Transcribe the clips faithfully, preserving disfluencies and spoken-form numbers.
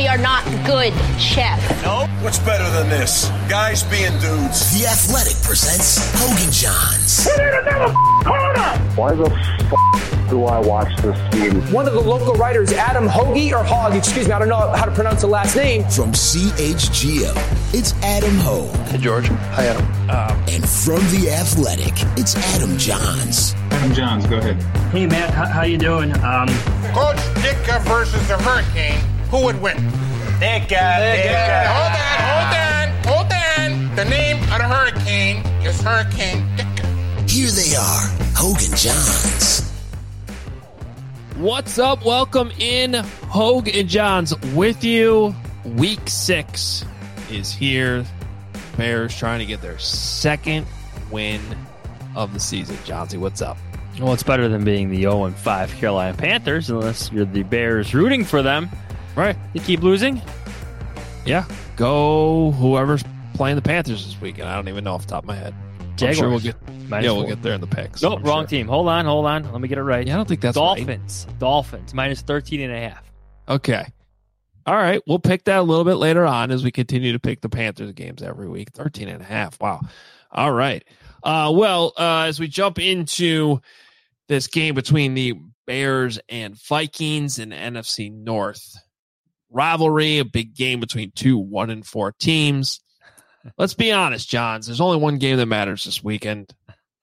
are not good, Shep. No? What's better than this? Guys being dudes. The Athletic presents Hoge Johns. Why the f*** do I watch this team? One of the local writers, Adam Hoge, or Hogg, excuse me, I don't know how to pronounce the last name. From C H G O, it's Adam Hoge. Hey, George. Hi, Adam. Um, and from The Athletic, it's Adam Johns. Adam Johns, go ahead. Hey, Matt, how, how you doing? Um, Coach Ditka versus the Hurricane, who would win? Ditka, Ditka. Hold on, hold on, hold on. The name of the Hurricane is Hurricane Ditka. Here they are, Hoge and Johns. What's up? Welcome in. Hoge and Johns with you. Week six is here. Bears trying to get their second win of the season. Johnsy, what's up? Well, it's better than being the oh and five Carolina Panthers, unless you're the Bears rooting for them. Right. You keep losing? Yeah. Go whoever's playing the Panthers this weekend. I don't even know off the top of my head. Jaguars. I'm sure we'll get, Minus yeah, four. we'll get there in the picks. Nope, I'm wrong sure. team. Hold on, hold on. Let me get it right. Yeah, I don't think that's Dolphins. right. Dolphins. Minus thirteen and a half. Okay. All right. We'll pick that a little bit later on as we continue to pick the Panthers games every week. thirteen and a half. Wow. All right. Uh, well, uh, as we jump into this game between the Bears and Vikings in N F C North rivalry, a big game between two one and four teams. Let's be honest, Johns. There's only one game that matters this weekend.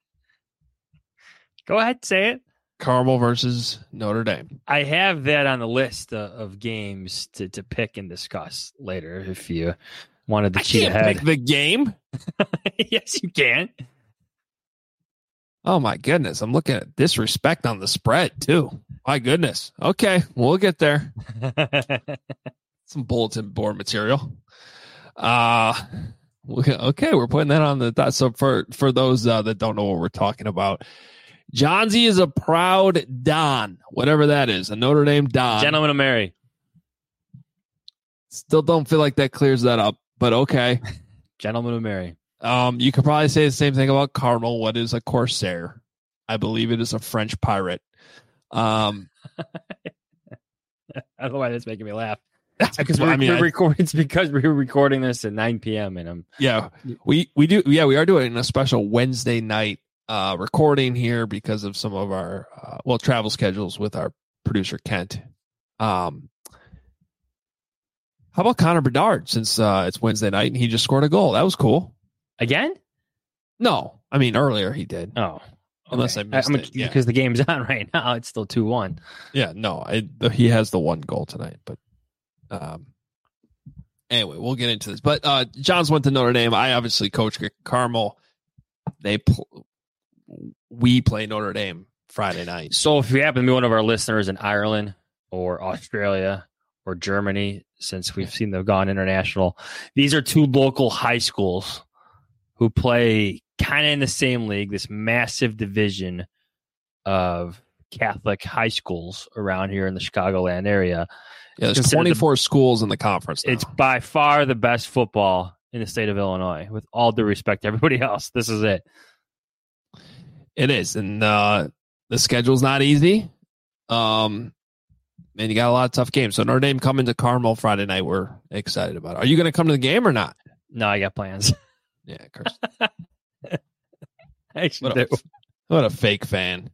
Go ahead, say it. Carmel versus Notre Dame. I have that on the list uh, of games to, to pick and discuss later if you wanted to I cheat can't ahead. pick the game. Yes, you can. Oh, my goodness. I'm looking at disrespect on the spread, too. My goodness. Okay, we'll get there. Some bulletin board material. Uh, okay, we're putting that on the dot. So for, for those uh, that don't know what we're talking about, Johnsy is a proud Don, whatever that is, a Notre Dame Don. Gentleman of Mary. Still don't feel like that clears that up, but okay. Gentleman of Mary. Um, you could probably say the same thing about Carmel. What is a Corsair? I believe it is a French pirate. Um, I don't know why that's making me laugh. Because we're, I mean, we're I, recording. It's because we're recording this at nine p.m. and I'm yeah, we we do yeah we are doing a special Wednesday night uh, recording here because of some of our uh, well travel schedules with our producer Kent. Um, how about Connor Bedard? Since uh, it's Wednesday night and he just scored a goal, that was cool. Again? No, I mean earlier he did. Oh, okay. Unless I missed I, it, yeah. Because the game's on right now. It's still two one. Yeah, no, I, the, he has the one goal tonight, but. Um. Anyway, we'll get into this. But uh, Johns went to Notre Dame. I obviously coach Carmel. They pl- we play Notre Dame Friday night. So if you happen to be one of our listeners in Ireland or Australia or Germany, since we've seen them gone international, these are two local high schools who play kind of in the same league, this massive division of Catholic high schools around here in the Chicagoland area. Yeah, there's twenty-four the, schools in the conference now. It's by far the best football in the state of Illinois, with all due respect to everybody else. This is it. It is. And uh, the schedule's not easy. Um, and you got a lot of tough games. So Notre Dame coming to Carmel Friday night. We're excited about it. Are you going to come to the game or not? No, I got plans. Yeah, of course. I should what, do. A, what a fake fan.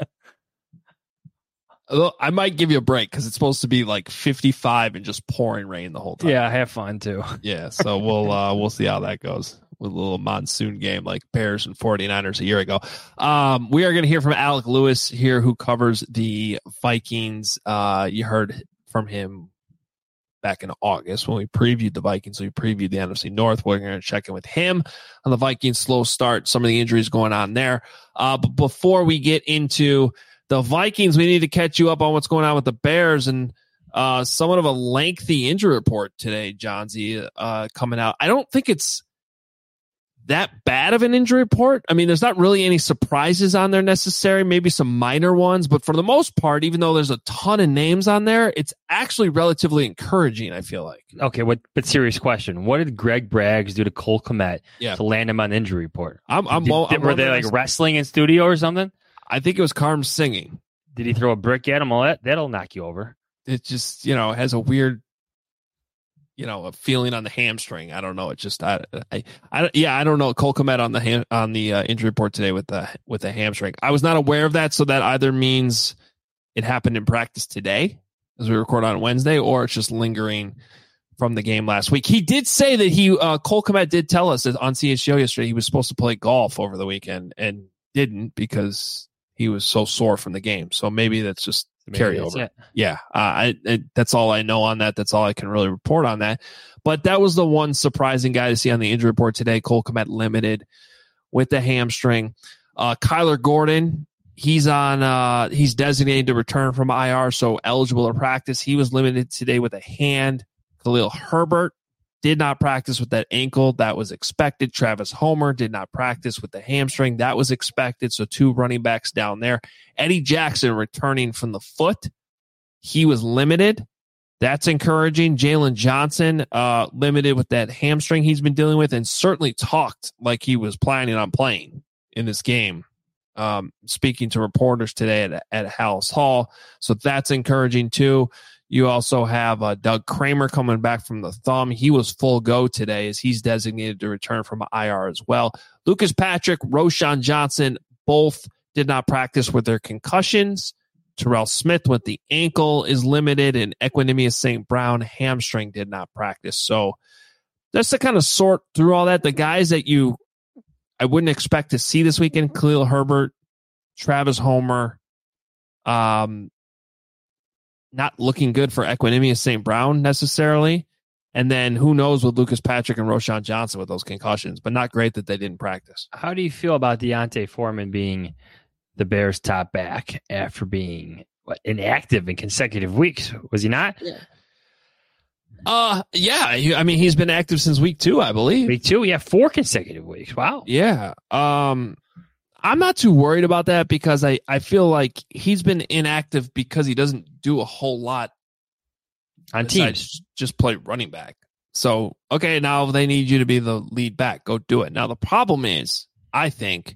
I might give you a break because it's supposed to be like fifty-five and just pouring rain the whole time. Yeah, have fun too. Yeah, so we'll uh, we'll see how that goes with a little monsoon game like Bears and 49ers a year ago. Um, we are going to hear from Alec Lewis here, who covers the Vikings. Uh, you heard from him back in August when we previewed the Vikings. We previewed the N F C North. We're going to check in with him on the Vikings' slow start, some of the injuries going on there. Uh, but before we get into the Vikings, we need to catch you up on what's going on with the Bears and uh, somewhat of a lengthy injury report today, Johnsy, uh, coming out. I don't think it's that bad of an injury report. I mean, there's not really any surprises on there necessary, maybe some minor ones, but for the most part, even though there's a ton of names on there, it's actually relatively encouraging, I feel like. Okay, what? But serious question. What did Greg Braggs do to Cole Kmet yeah. to land him on the injury report? I'm, I'm, did, I'm, did, were they like wrestling in studio or something? I think it was Carm singing. Did he throw a brick at him? Well, that, that'll knock you over. It just, you know, has a weird you know, a feeling on the hamstring. I don't know. It just, I, I, I yeah, I don't know. Cole Kmet on the ham, on the uh, injury report today with the with the hamstring. I was not aware of that, so that either means it happened in practice today, as we record on Wednesday, or it's just lingering from the game last week. He did say that he, uh, Cole Kmet did tell us that on C H G O yesterday he was supposed to play golf over the weekend and didn't because he was so sore from the game. So maybe that's just carry over. Yeah. Uh, I, I, that's all I know on that. That's all I can really report on that. But that was the one surprising guy to see on the injury report today. Cole Kmet limited with the hamstring. Uh, Kyler Gordon, he's on, uh, he's designated to return from I R, so eligible to practice. He was limited today with a hand. Khalil Herbert did not practice with that ankle. That was expected. Travis Homer did not practice with the hamstring. That was expected. So two running backs down there. Eddie Jackson returning from the foot. He was limited. That's encouraging. Jalen Johnson uh, limited with that hamstring he's been dealing with, and certainly talked like he was planning on playing in this game. Um, speaking to reporters today at, at Hallis Hall. So that's encouraging too. You also have uh, Doug Kramer coming back from the thumb. He was full go today as he's designated to return from I R as well. Lucas Patrick, Roschon Johnson, both did not practice with their concussions. Terrell Smith with the ankle is limited, and Equanimeous Saint Brown hamstring did not practice. So just to kind of sort through all that, the guys that you I wouldn't expect to see this weekend: Khalil Herbert, Travis Homer, um. not looking good for Equanimeous Saint Brown necessarily. And then who knows with Lucas Patrick and Roschon Johnson with those concussions, but not great that they didn't practice. How do you feel about D'Onta Foreman being the Bears' top back after being what, inactive in consecutive weeks? Was he not? Yeah. Uh, yeah. He, I mean, he's been active since week two, I believe. Week two? Yeah, four consecutive weeks. Wow. Yeah. Um, I'm not too worried about that because I, I feel like he's been inactive because he doesn't do a whole lot on teams. Just play running back. So, okay, now they need you to be the lead back. Go do it. Now, the problem is, I think,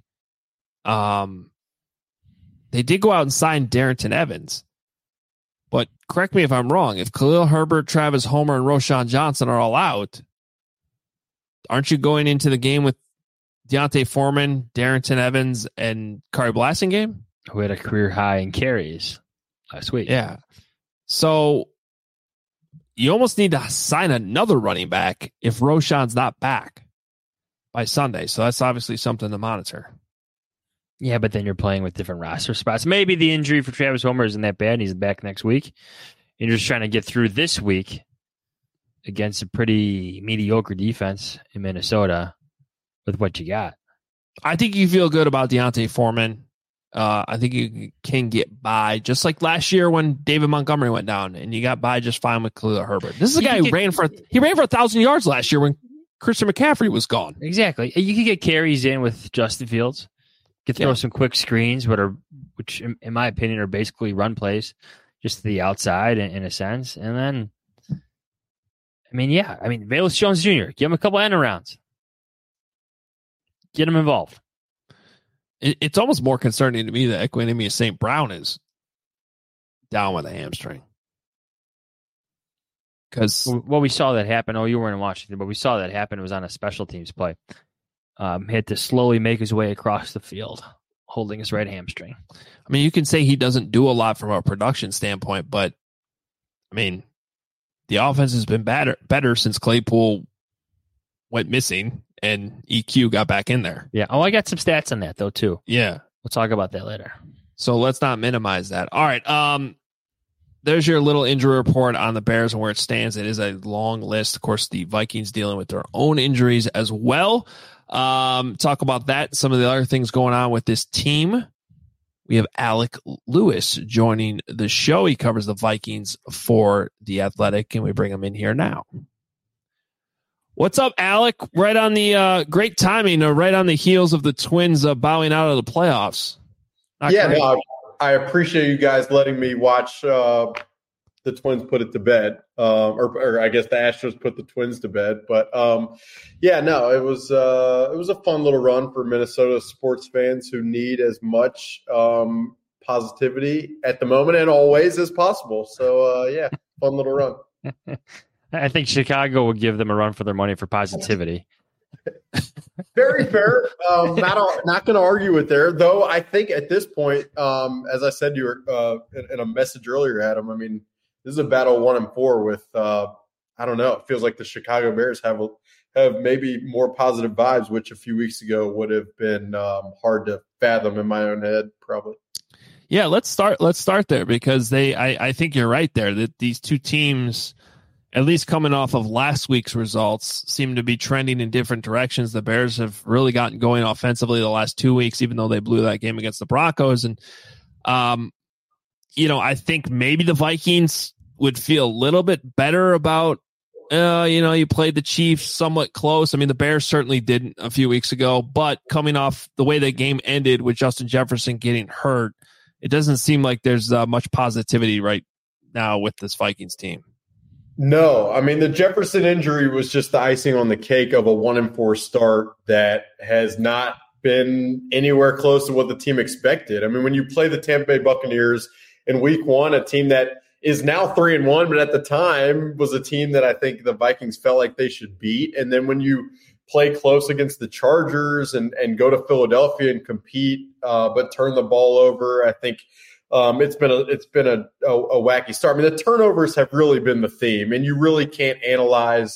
um, they did go out and sign Darrynton Evans. But correct me if I'm wrong. If Khalil Herbert, Travis Homer, and Roschon Johnson are all out, aren't you going into the game with D'Onta Foreman, Darrynton Evans, and Kari Blasingame, who had a career high in carries last week? Yeah. So you almost need to sign another running back if Roschon's not back by Sunday. So that's obviously something to monitor. Yeah, but then you're playing with different roster spots. Maybe the injury for Travis Homer isn't that bad. He's back next week. You're just trying to get through this week against a pretty mediocre defense in Minnesota with what you got. I think you feel good about D'Onta Foreman. Uh, I think you can get by, just like last year when David Montgomery went down, and you got by just fine with Khalil Herbert. This is a guy who ran for he ran for a thousand yards last year when Christian McCaffrey was gone. Exactly. You can get carries in with Justin Fields. You can throw yeah. some quick screens, but are which, in, in my opinion, are basically run plays, just to the outside in, in a sense. And then, I mean, yeah, I mean, Velus Jones Junior Give him a couple end arounds. Get him involved. It, it's almost more concerning to me that Equanimeous Saint Brown is down with a hamstring. Because well, we saw that happen. Oh, you weren't in Washington, but we saw that happen. It was on a special teams play. Um, he had to slowly make his way across the field, holding his right hamstring. I mean, you can say he doesn't do a lot from a production standpoint, but I mean, the offense has been better, better since Claypool went missing and E Q got back in there. Yeah. Oh, I got some stats on that though too. Yeah. We'll talk about that later. So let's not minimize that. All right. Um, there's your little injury report on the Bears and where it stands. It is a long list. Of course, the Vikings dealing with their own injuries as well. Um, talk about that. Some of the other things going on with this team. We have Alec Lewis joining the show. He covers the Vikings for The Athletic, and we bring him in here now. What's up, Alec? Right on the uh, great timing, uh, right on the heels of the Twins uh, bowing out of the playoffs. Not yeah, no, I appreciate you guys letting me watch uh, the Twins put it to bed, uh, or, or I guess the Astros put the Twins to bed. But um, yeah, no, it was uh, it was a fun little run for Minnesota sports fans who need as much um, positivity at the moment and always as possible. So uh, yeah, fun little run. I think Chicago would give them a run for their money for positivity. Very fair. Um, not not going to argue with there, though. I think at this point, um, as I said to you uh, in, in a message earlier, Adam. I mean, this is a battle one and four with. Uh, I don't know. It feels like the Chicago Bears have a, have maybe more positive vibes, which a few weeks ago would have been um, hard to fathom in my own head, probably. Yeah, let's start. Let's start there because they. I, I think you're right there that these two teams, at least coming off of last week's results, seem to be trending in different directions. The Bears have really gotten going offensively the last two weeks, even though they blew that game against the Broncos. And, um, you know, I think maybe the Vikings would feel a little bit better about, uh, you know, you played the Chiefs somewhat close. I mean, the Bears certainly didn't a few weeks ago, but coming off the way the game ended with Justin Jefferson getting hurt, it doesn't seem like there's uh, much positivity right now with this Vikings team. No, I mean, the Jefferson injury was just the icing on the cake of a one and four start that has not been anywhere close to what the team expected. I mean, when you play the Tampa Bay Buccaneers in week one, a team that is now three and one, but at the time was a team that I think the Vikings felt like they should beat. And then when you play close against the Chargers and, and go to Philadelphia and compete, uh, but turn the ball over, I think um, it's been a it's been a, a, a wacky start. I mean, the turnovers have really been the theme, and you really can't analyze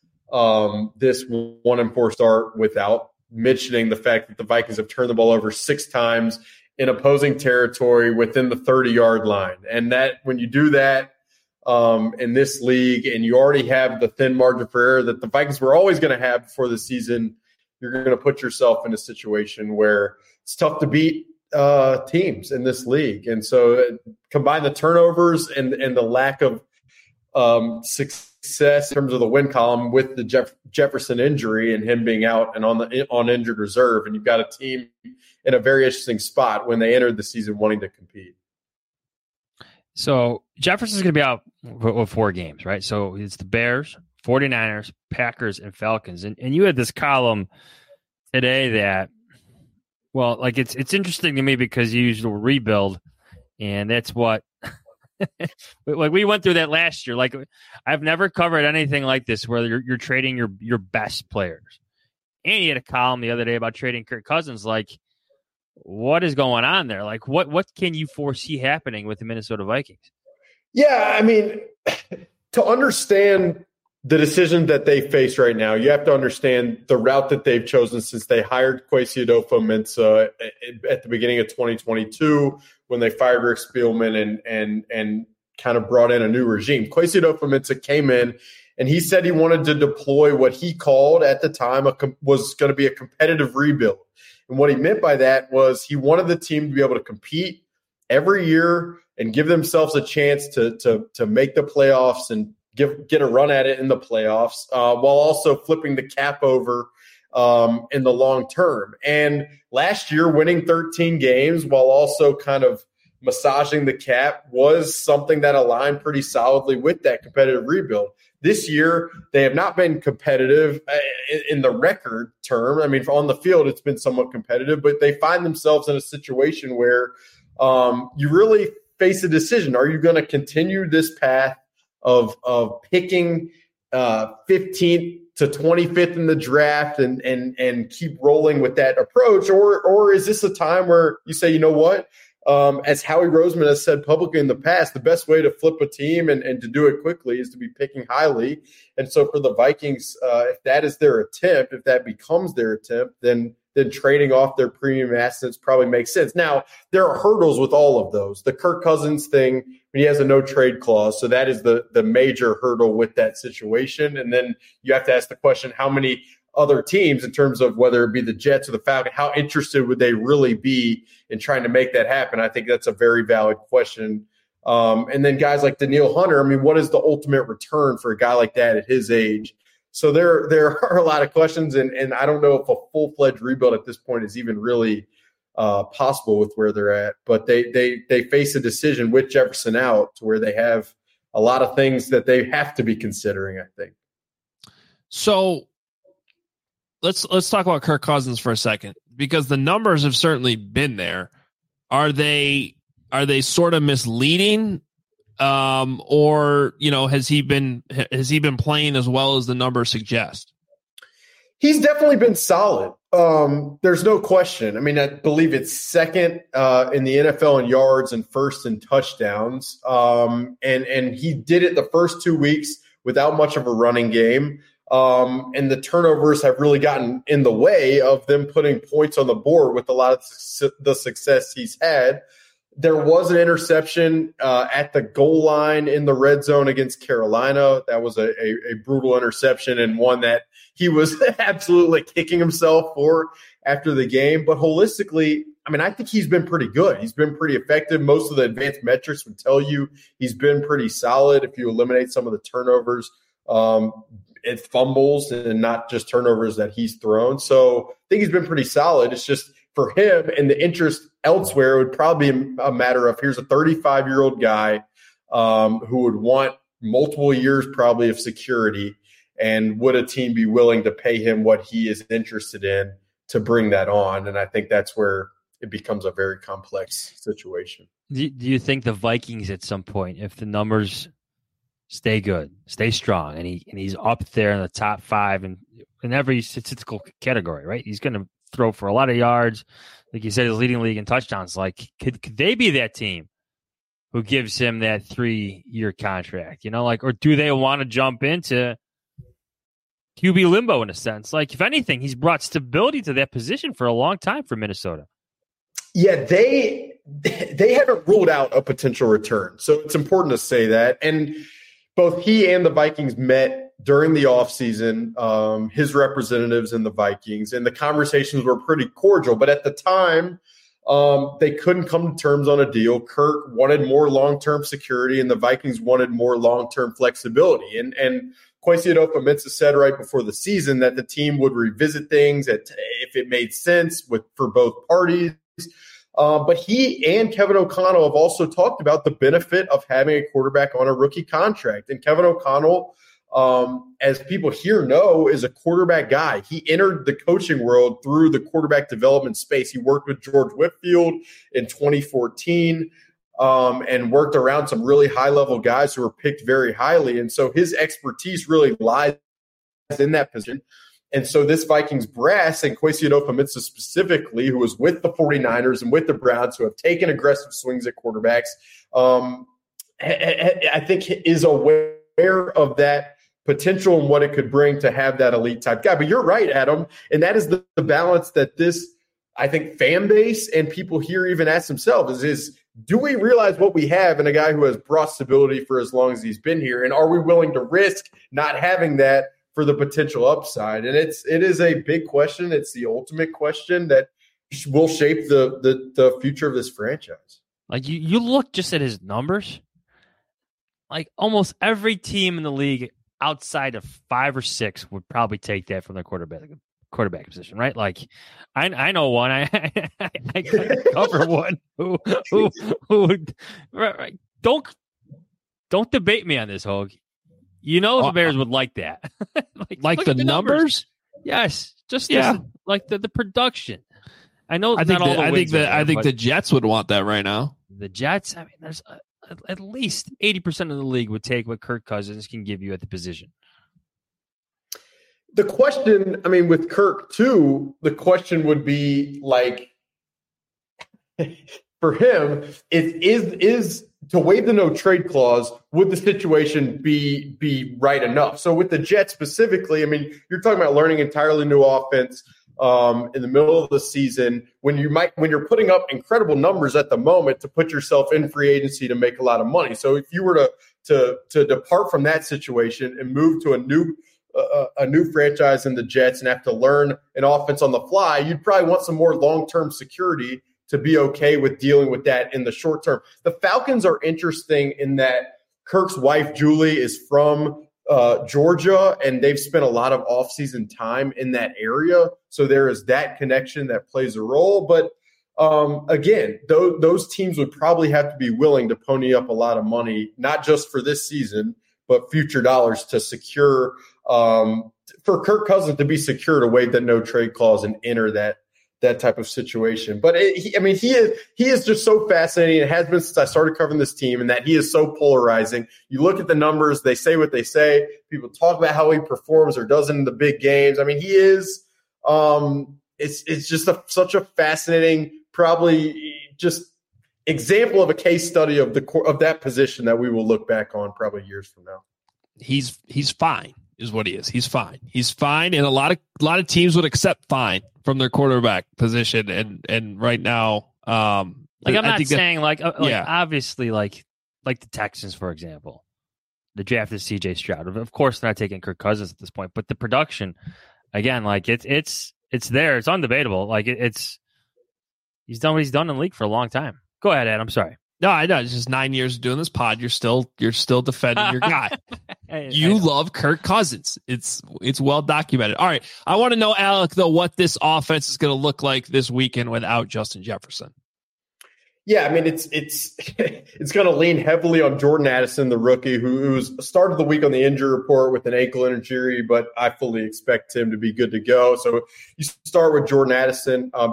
um, this one and four start without mentioning the fact that the Vikings have turned the ball over six times in opposing territory within the thirty-yard line. And that when you do that um, in this league and you already have the thin margin for error that the Vikings were always going to have before the season, you're going to put yourself in a situation where it's tough to beat uh, teams in this league. And so uh, combine the turnovers and, and the lack of um, success in terms of the win column with the Jeff- Jefferson injury and him being out and on the on injured reserve. And you've got a team in a very interesting spot when they entered the season wanting to compete. So Jefferson's going to be out with four games, right? So it's the Bears, 49ers, Packers, and Falcons. And and you had this column today that, well, like it's it's interesting to me because you used the rebuild, and that's what like we went through that last year. Like I've never covered anything like this where you're you're trading your your best players. And you had a column the other day about trading Kirk Cousins. Like, what is going on there? Like, what what can you foresee happening with the Minnesota Vikings? Yeah, I mean, to understand the decision that they face right now, you have to understand the route that they've chosen since they hired Kwesi Adofo-Mensah at the beginning of twenty twenty-two when they fired Rick Spielman and and and kind of brought in a new regime. Kwesi Adofo-Mensah came in and he said he wanted to deploy what he called at the time a com- was going to be a competitive rebuild. And what he meant by that was he wanted the team to be able to compete every year and give themselves a chance to to to make the playoffs and give get a run at it in the playoffs, uh, while also flipping the cap over um, in the long term. And last year, winning thirteen games while also kind of massaging the cap was something that aligned pretty solidly with that competitive rebuild. This year, they have not been competitive in the record term. I mean, on the field, it's been somewhat competitive, but they find themselves in a situation where um, you really face a decision. Are you going to continue this path of of picking uh, fifteenth to twenty-fifth in the draft and and and keep rolling with that approach, or or is this a time where you say, you know what? Um, as Howie Roseman has said publicly in the past, the best way to flip a team and, and to do it quickly is to be picking highly. And so for the Vikings, uh, if that is their attempt, if that becomes their attempt, then then trading off their premium assets probably makes sense. Now, there are hurdles with all of those. The Kirk Cousins thing, he has a no-trade clause, so that is the, the major hurdle with that situation. And then you have to ask the question, how many other teams, in terms of whether it be the Jets or the Falcons, how interested would they really be in trying to make that happen? I think that's a very valid question. Um, and then guys like Danielle Hunter, I mean, what is the ultimate return for a guy like that at his age? So there there are a lot of questions, and, and I don't know if a full-fledged rebuild at this point is even really uh, possible with where they're at. But they they they face a decision with Jefferson out to where they have a lot of things that they have to be considering, I think. So let's let's talk about Kirk Cousins for a second, because the numbers have certainly been there. Are they are they sort of misleading? Um, or, you know, has he been has he been playing as well as the numbers suggest? He's definitely been solid. Um, there's no question. I mean, I believe it's second uh, in the N F L in yards and first in touchdowns. Um, and, and he did it the first two weeks without much of a running game. Um, and the turnovers have really gotten in the way of them putting points on the board with a lot of su- the success he's had. There was an interception uh, at the goal line in the red zone against Carolina. That was a, a, a brutal interception and one that he was absolutely kicking himself for after the game. But holistically, I mean, I think he's been pretty good. He's been pretty effective. Most of the advanced metrics would tell you he's been pretty solid if you eliminate some of the turnovers um, and fumbles and not just turnovers that he's thrown. So I think he's been pretty solid. It's just for him and the interest elsewhere, it would probably be a matter of here's a thirty-five-year-old guy um, who would want multiple years probably of security, and would a team be willing to pay him what he is interested in to bring that on? And I think that's where it becomes a very complex situation. Do you, do you think the Vikings at some point, if the numbers stay good, stay strong, and he and he's up there in the top five in, in every statistical category, right? He's going to throw for a lot of yards. Like you said, he's leading the league in touchdowns. Like, could could they be that team who gives him that three-year contract? You know, like, or do they want to jump into Q B limbo in a sense? Like, if anything, he's brought stability to that position for a long time for Minnesota. Yeah, they they haven't ruled out a potential return. So it's important to say that. And both he and the Vikings met during the offseason, um, his representatives and the Vikings, and the conversations were pretty cordial. But at the time, um, they couldn't come to terms on a deal. Kirk wanted more long-term security, and the Vikings wanted more long-term flexibility. And and Kwesi Adofo-Mensah said right before the season that the team would revisit things at, if it made sense with for both parties. Uh, but he and Kevin O'Connell have also talked about the benefit of having a quarterback on a rookie contract. And Kevin O'Connell, um, as people here know, is a quarterback guy. He entered the coaching world through the quarterback development space. He worked with George Whitfield in twenty fourteen um, and worked around some really high-level guys who were picked very highly. And so his expertise really lies in that position. And so this Vikings brass, and Kwesi Adofo-Mensah specifically, who was with the 49ers and with the Browns, who have taken aggressive swings at quarterbacks, um, I think is aware of that potential and what it could bring to have that elite type guy. But you're right, Adam, and that is the, the balance that this, I think, fan base and people here even ask themselves is, is do we realize what we have in a guy who has brought stability for as long as he's been here? And are we willing to risk not having that for the potential upside? And it's it is a big question. It's the ultimate question that will shape the the, the future of this franchise. Like you, you look just at his numbers. Like almost every team in the league outside of five or six would probably take that from their quarterback quarterback position, right? Like I I know one. I I, I cover one who who who would, right, don't don't debate me on this, Hogue. You know the Bears would like that. like like the, the numbers? numbers? Yes. Just yeah. this, like the, the production. I know I think not all the, the I think there, the I think the Jets would want that right now. The Jets, I mean, there's a, at least eighty percent of the league would take what Kirk Cousins can give you at the position. The question, I mean, with Kirk too, the question would be like for him, it is is to waive the no trade clause, would the situation be be right enough? So with the Jets specifically, I mean, you're talking about learning entirely new offense um, in the middle of the season when you might when you're putting up incredible numbers at the moment to put yourself in free agency to make a lot of money. So if you were to to to depart from that situation and move to a new uh, a new franchise in the Jets and have to learn an offense on the fly, you'd probably want some more long-term security to be okay with dealing with that in the short term. The Falcons are interesting in that Kirk's wife, Julie, is from uh, Georgia, and they've spent a lot of offseason time in that area. So there is that connection that plays a role. But um, again, th- those teams would probably have to be willing to pony up a lot of money, not just for this season, but future dollars to secure um, for Kirk Cousins to be secure to waive that no trade clause and enter that that type of situation. But it, he, I mean, he is he is just so fascinating. It has been since I started covering this team, and that he is so polarizing. You look at the numbers; they say what they say. People talk about how he performs or doesn't in the big games. I mean, he is. Um, it's it's just a, such a fascinating, probably just example of a case study of the of that position that we will look back on probably years from now. He's he's fine, is what he is. He's fine. He's fine, and a lot of a lot of teams would accept fine from their quarterback position. And and right now, um, like I'm I not think saying that, like, uh, like yeah. obviously like like the Texans, for example, the draft is C J Stroud. Of course, they're not taking Kirk Cousins at this point, but the production, again, like it's it's it's there. It's undebatable. Like it, it's he's done what he's done in the league for a long time. Go ahead, Ed. I'm sorry. No, I know. It's just nine years of doing this pod. You're still you're still defending your guy. I, you I love Kirk Cousins. It's it's well documented. All right. I want to know, Alec, though, what this offense is going to look like this weekend without Justin Jefferson. Yeah, I mean, it's it's it's going to lean heavily on Jordan Addison, the rookie, who, who was started the week on the injury report with an ankle injury, but I fully expect him to be good to go. So you start with Jordan Addison. Um,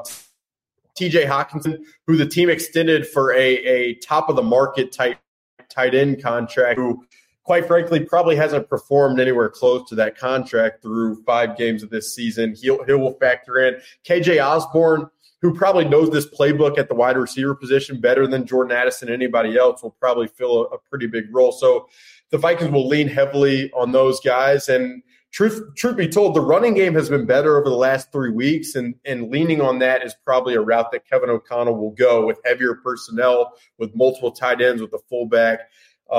T J Hawkinson, who the team extended for a, a top-of-the-market type tight end contract, who, quite frankly, probably hasn't performed anywhere close to that contract through five games of this season. He'll, he will factor in K J Osborne, who probably knows this playbook at the wide receiver position better than Jordan Addison. Anybody else will probably fill a, a pretty big role. So the Vikings will lean heavily on those guys. And Truth, truth be told, the running game has been better over the last three weeks, and, and leaning on that is probably a route that Kevin O'Connell will go with heavier personnel, with multiple tight ends, with the fullback.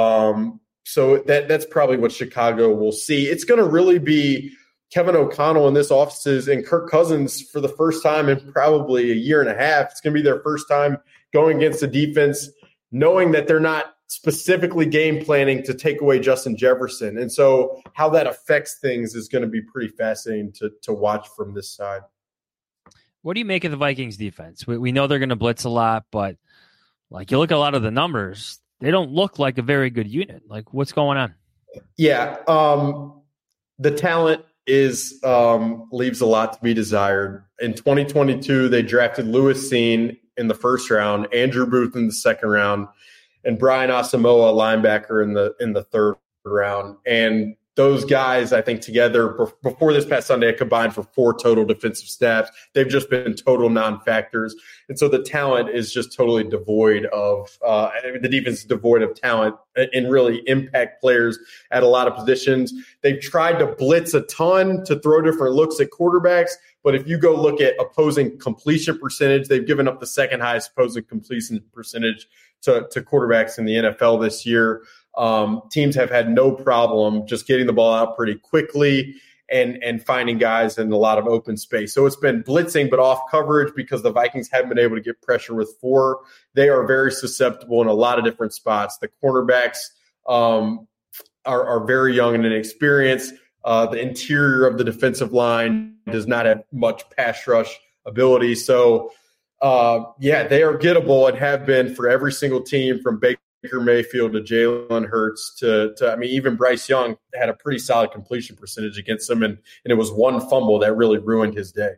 Um, so that that's probably what Chicago will see. It's going to really be Kevin O'Connell in this offices and Kirk Cousins for the first time in probably a year and a half. It's going to be their first time going against the defense, knowing that they're not specifically game planning to take away Justin Jefferson. And so how that affects things is going to be pretty fascinating to, to watch from this side. What do you make of the Vikings defense? We, we know they're going to blitz a lot, but like you look at a lot of the numbers, they don't look like a very good unit. Like what's going on? Yeah. Um, the talent is um, leaves a lot to be desired. In twenty twenty-two, they drafted Lewis Cine in the first round, Andrew Booth in the second round, and Brian Asamoah, linebacker, in the in the third round. And those guys, I think, together before this past Sunday, combined for four total defensive snaps. They've just been total non-factors. And so the talent is just totally devoid of uh, – I mean, the defense is devoid of talent and really impact players at a lot of positions. They've tried to blitz a ton to throw different looks at quarterbacks. But if you go look at opposing completion percentage, they've given up the second highest opposing completion percentage to, to quarterbacks in the N F L this year. Um, teams have had no problem just getting the ball out pretty quickly and, and finding guys in a lot of open space. So it's been blitzing, but off coverage because the Vikings haven't been able to get pressure with four. They are very susceptible in a lot of different spots. The cornerbacks um, are, are very young and inexperienced. Uh, the interior of the defensive line does not have much pass rush ability. So, uh, yeah, they are gettable and have been for every single team from Baker Mayfield to Jalen Hurts to, to, I mean, even Bryce Young had a pretty solid completion percentage against him, and, and it was one fumble that really ruined his day.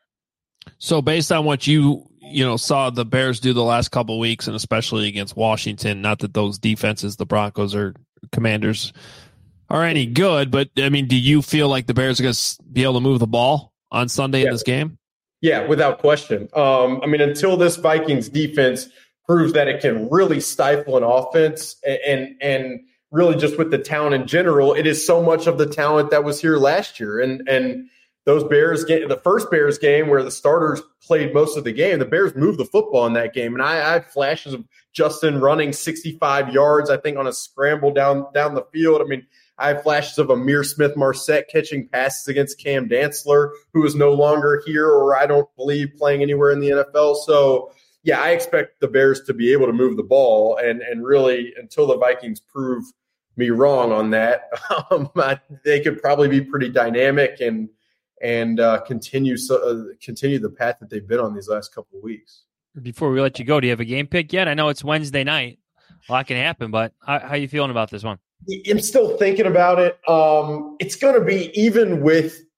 So based on what you, you know, saw the Bears do the last couple of weeks, and especially against Washington, not that those defenses, the Broncos or Commanders, are any good, but, I mean, do you feel like the Bears are going to be able to move the ball on Sunday yeah. in this game? Yeah, without question. Um, I mean, until this Vikings defense proves that it can really stifle an offense and, and and really just with the talent in general, it is so much of the talent that was here last year. And and those Bears game, the first Bears game where the starters played most of the game, the Bears moved the football in that game. And I, I had flashes of Justin running sixty-five yards, I think, on a scramble down down the field. I mean, I have flashes of Amir Smith-Marset catching passes against Cam Dantzler, who is no longer here or I don't believe playing anywhere in the N F L. So, yeah, I expect the Bears to be able to move the ball, and and really until the Vikings prove me wrong on that, um, I, they could probably be pretty dynamic and and uh, continue so, uh, continue the path that they've been on these last couple of weeks. Before we let you go, do you have a game pick yet? I know it's Wednesday night. A lot can happen, but how, how are you feeling about this one? I'm still thinking about it. Um, it's going to be even with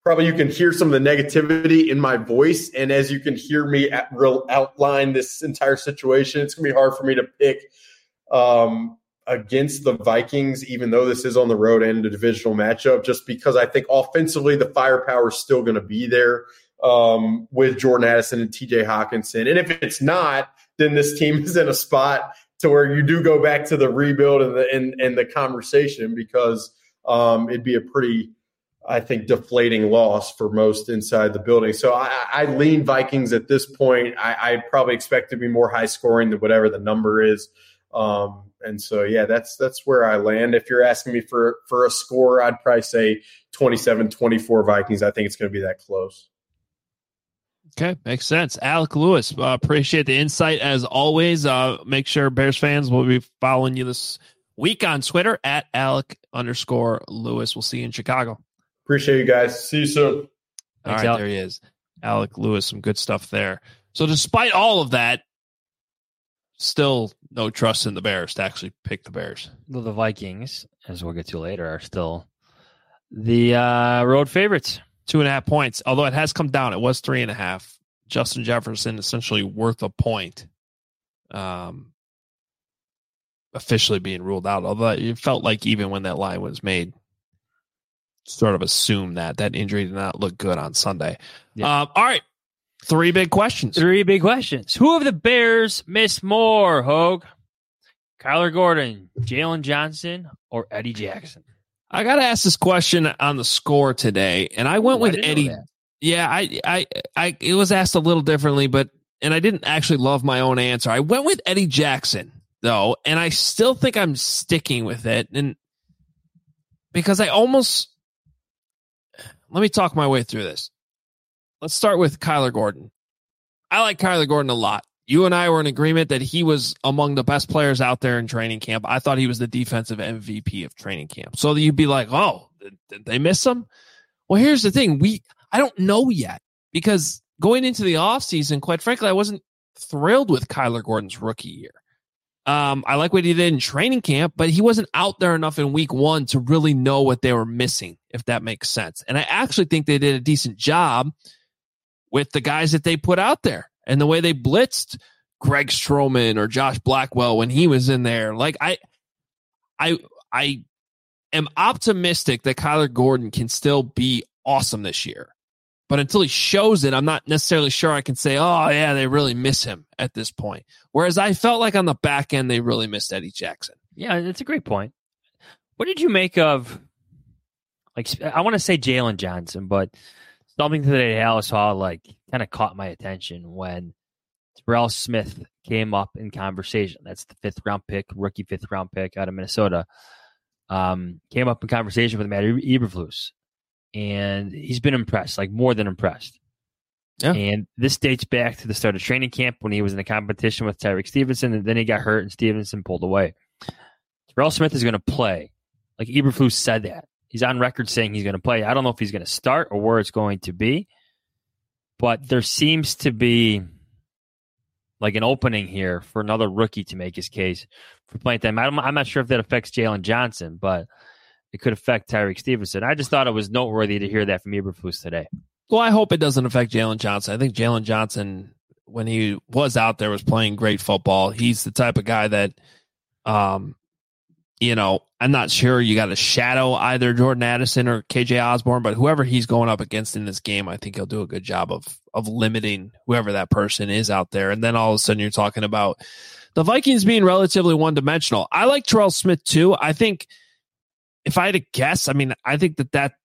probably you can hear some of the negativity in my voice. And as you can hear me at real outline this entire situation, it's going to be hard for me to pick um, against the Vikings, even though this is on the road and a divisional matchup, just because I think offensively the firepower is still going to be there um, with Jordan Addison and T J Hawkinson. And if it's not, then this team is in a spot to where you do go back to the rebuild and the and, and the conversation, because um, it'd be a pretty, I think, deflating loss for most inside the building. So I, I lean Vikings at this point. I, I probably expect to be more high scoring than whatever the number is. Um, and so, yeah, that's that's where I land. If you're asking me for, for a score, I'd probably say twenty-seven twenty-four Vikings. I think it's going to be that close. Okay, makes sense. Alec Lewis, uh, appreciate the insight as always. Uh, make sure Bears fans will be following you this week on Twitter at Alec underscore Lewis. We'll see you in Chicago. Appreciate you guys. See you soon. All Thanks, right, Alec. there he is. Alec Lewis, some good stuff there. So despite all of that, still no trust in the Bears to actually pick the Bears. Well, the Vikings, as we'll get to later, are still the uh, road favorites. Two and a half points, although it has come down. It was three and a half. Justin Jefferson essentially worth a point, um, officially being ruled out. Although it felt like even when that line was made, sort of assumed that that injury did not look good on Sunday. Yeah. Um, all right, three big questions. Three big questions. Who of the Bears missed more, Hogue? Kyler Gordon, Jalen Johnson, or Eddie Jackson? I got to ask this question on the score today, and I went Ooh, with I Eddie. Yeah, I, I, I, it was asked a little differently, but, and I didn't actually love my own answer. I went with Eddie Jackson, though, and I still think I'm sticking with it. And because I almost, let me talk my way through this. Let's start with Kyler Gordon. I like Kyler Gordon a lot. You and I were in agreement that he was among the best players out there in training camp. I thought he was the defensive M V P of training camp. So you'd be like, oh, did, did they miss him? Well, here's the thing. We, I don't know yet, because going into the offseason, quite frankly, I wasn't thrilled with Kyler Gordon's rookie year. Um, I like what he did in training camp, but he wasn't out there enough in week one to really know what they were missing, if that makes sense. And I actually think they did a decent job with the guys that they put out there. And the way they blitzed Greg Stroman or Josh Blackwell when he was in there, like I, I, I am optimistic that Kyler Gordon can still be awesome this year. But until he shows it, I'm not necessarily sure I can say, oh yeah, they really miss him at this point. Whereas I felt like on the back end, they really missed Eddie Jackson. Yeah, that's a great point. What did you make of, like, I want to say Jalen Johnson, but something today I saw like kind of caught my attention when Terrell Smith came up in conversation. That's the fifth round pick, rookie fifth round pick out of Minnesota. Um, came up in conversation with Matt Eberflus, and he's been impressed, like more than impressed. Yeah. And this dates back to the start of training camp when he was in a competition with Tyreek Stevenson, and then he got hurt and Stevenson pulled away. Terrell Smith is going to play. Like Eberflus said that. He's on record saying he's going to play. I don't know if he's going to start or where it's going to be, but there seems to be like an opening here for another rookie to make his case for playing time. I'm, I'm not sure if that affects Jalen Johnson, but it could affect Tyreek Stevenson. I just thought it was noteworthy to hear that from Eberflus today. Well, I hope it doesn't affect Jalen Johnson. I think Jalen Johnson, when he was out there, was playing great football. He's the type of guy that, um, you know, I'm not sure you got to shadow either Jordan Addison or K J Osborne, but whoever he's going up against in this game, I think he'll do a good job of of limiting whoever that person is out there. And then all of a sudden you're talking about the Vikings being relatively one-dimensional. I like Terrell Smith too. I think if I had to guess, I mean, I think that that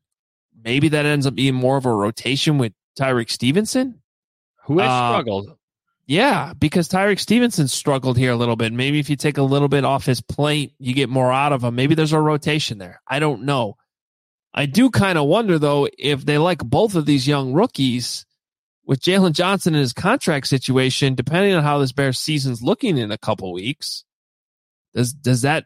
maybe that ends up being more of a rotation with Tyreek Stevenson, who has uh, struggled. Yeah, because Tyreek Stevenson struggled here a little bit. Maybe if you take a little bit off his plate, you get more out of him. Maybe there's a rotation there. I don't know. I do kind of wonder, though, if they like both of these young rookies with Jalen Johnson in his contract situation, depending on how this Bears season's looking in a couple weeks, does does that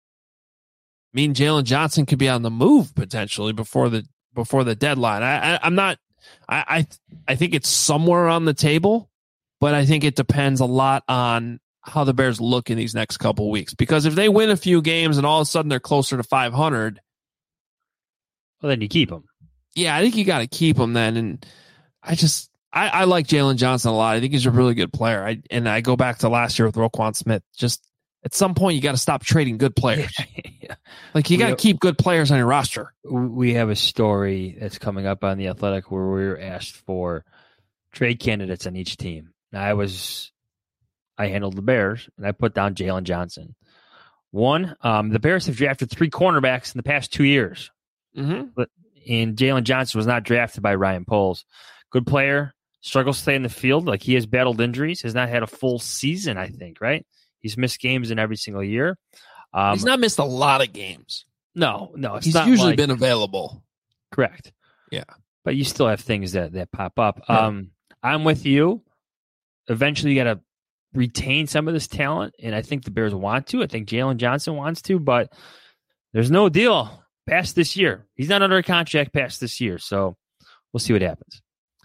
mean Jalen Johnson could be on the move potentially before the before the deadline? I, I, I'm not. I, I I think it's somewhere on the table. But I think it depends a lot on how the Bears look in these next couple of weeks. Because if they win a few games and all of a sudden they're closer to five hundred, well, then you keep them. Yeah, I think you got to keep him then. And I just, I, I like Jalen Johnson a lot. I think he's a really good player. I, and I go back to last year with Roquan Smith. Just at some point, you got to stop trading good players. yeah. Like you got to keep good players on your roster. We have a story that's coming up on The Athletic where we were asked for trade candidates on each team. Now, I was, I handled the Bears, and I put down Jalen Johnson. One, um, the Bears have drafted three cornerbacks in the past two years. Mm-hmm. But and Jalen Johnson was not drafted by Ryan Poles. Good player, struggles to stay in the field. Like he has battled injuries, has not had a full season, I think, right? He's missed games in every single year. Um, He's not missed a lot of games. No, no. It's He's not usually like, been available. Correct. Yeah. But you still have things that, that pop up. Yeah. Um, I'm with you. Eventually, you got to retain some of this talent, and I think the Bears want to. I think Jalen Johnson wants to, but there's no deal past this year. He's not under a contract past this year, so we'll see what happens.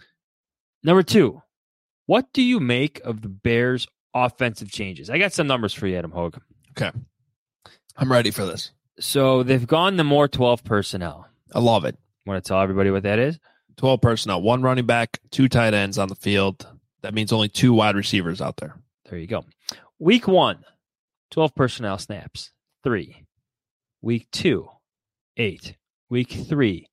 Number two, what do you make of the Bears' offensive changes? I got some numbers for you, Adam Hogue. Okay. I'm ready for this. So they've gone to more twelve personnel. I love it. Want to tell everybody what that is? twelve personnel, one running back, two tight ends on the field. That means only two wide receivers out there. There you go. Week one, twelve personnel snaps, three. Week two, eight. Week three,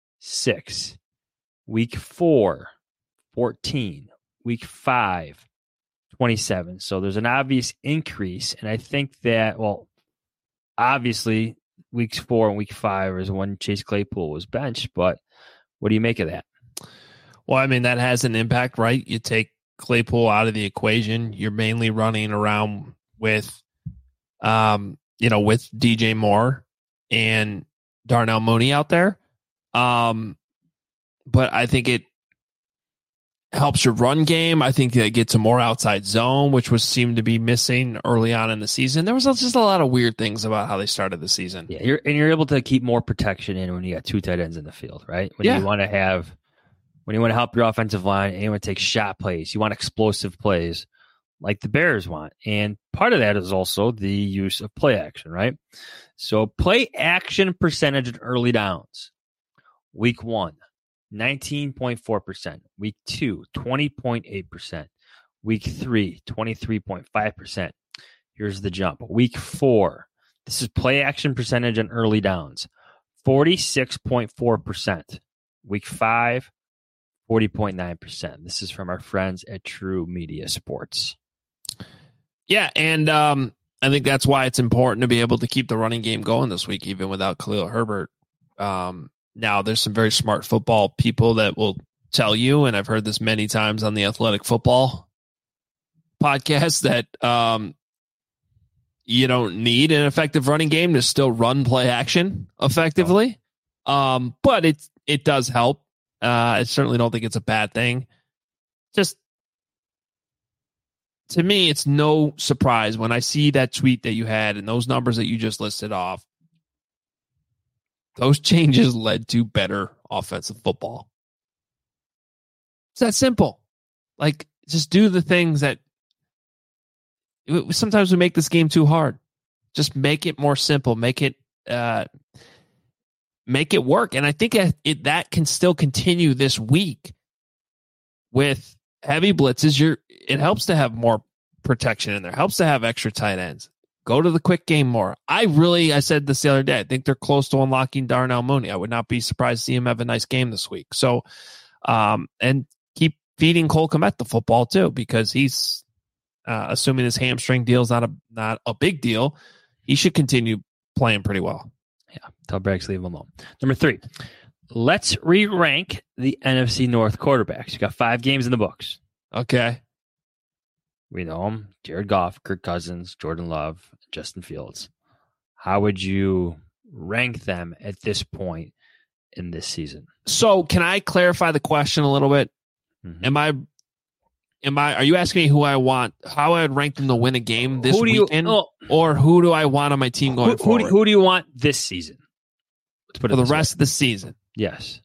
six. Week four, fourteen. Week five, twenty-seven. So there's an obvious increase. And I think that, well, obviously, weeks four and week five is when Chase Claypool was benched. But what do you make of that? Well, I mean, that has an impact, right? You take Claypool out of the equation. You're mainly running around with, um, you know, with D J Moore and Darnell Mooney out there. Um, but I think it helps your run game. I think that gets a more outside zone, which was seemed to be missing early on in the season. There was just a lot of weird things about how they started the season. Yeah, you're and you're able to keep more protection in when you got two tight ends in the field, right? When yeah. you want to have, when you want to help your offensive line and you want to take shot plays, you want explosive plays like the Bears want. And part of that is also the use of play action, right? So play action percentage in early downs. Week one, nineteen point four percent. Week two, twenty point eight percent. Week three, twenty-three point five percent. Here's the jump. Week four, this is play action percentage on early downs, forty-six point four percent. Week five, forty point nine percent. This is from our friends at True Media Sports. Yeah, and um, I think that's why it's important to be able to keep the running game going this week, even without Khalil Herbert. Um, now, there's some very smart football people that will tell you, and I've heard this many times on the Athletic Football podcast, that um, you don't need an effective running game to still run play action effectively. Um, but it, it does help. Uh, I certainly don't think it's a bad thing. Just, to me, it's no surprise when I see that tweet that you had and those numbers that you just listed off. Those changes led to better offensive football. It's that simple. Like, just do the things that sometimes we make this game too hard. Just make it more simple. Make it uh, make it work. And I think it, it, that can still continue this week with heavy blitzes. You're, it helps to have more protection in there. Helps to have extra tight ends. Go to the quick game more. I really, I said this the other day, I think they're close to unlocking Darnell Mooney. I would not be surprised to see him have a nice game this week. So, um, and keep feeding Cole Kmet the football too, because he's, uh, assuming his hamstring deal is not a, not a big deal, he should continue playing pretty well. Yeah. Tell Braggs leave him alone. Number three, let's re-rank the N F C North quarterbacks. You got five games in the books. Okay. We know them: Jared Goff, Kirk Cousins, Jordan Love, Justin Fields. How would you rank them at this point in this season? So can I clarify the question a little bit? Mm-hmm. Am I, am I, are you asking me who I want, how I would rank them to win a game this who do you, weekend? oh, or who do I want on my team going who, forward? Who do, who do you want this season? Let's put it For the rest way. of the season. Yes.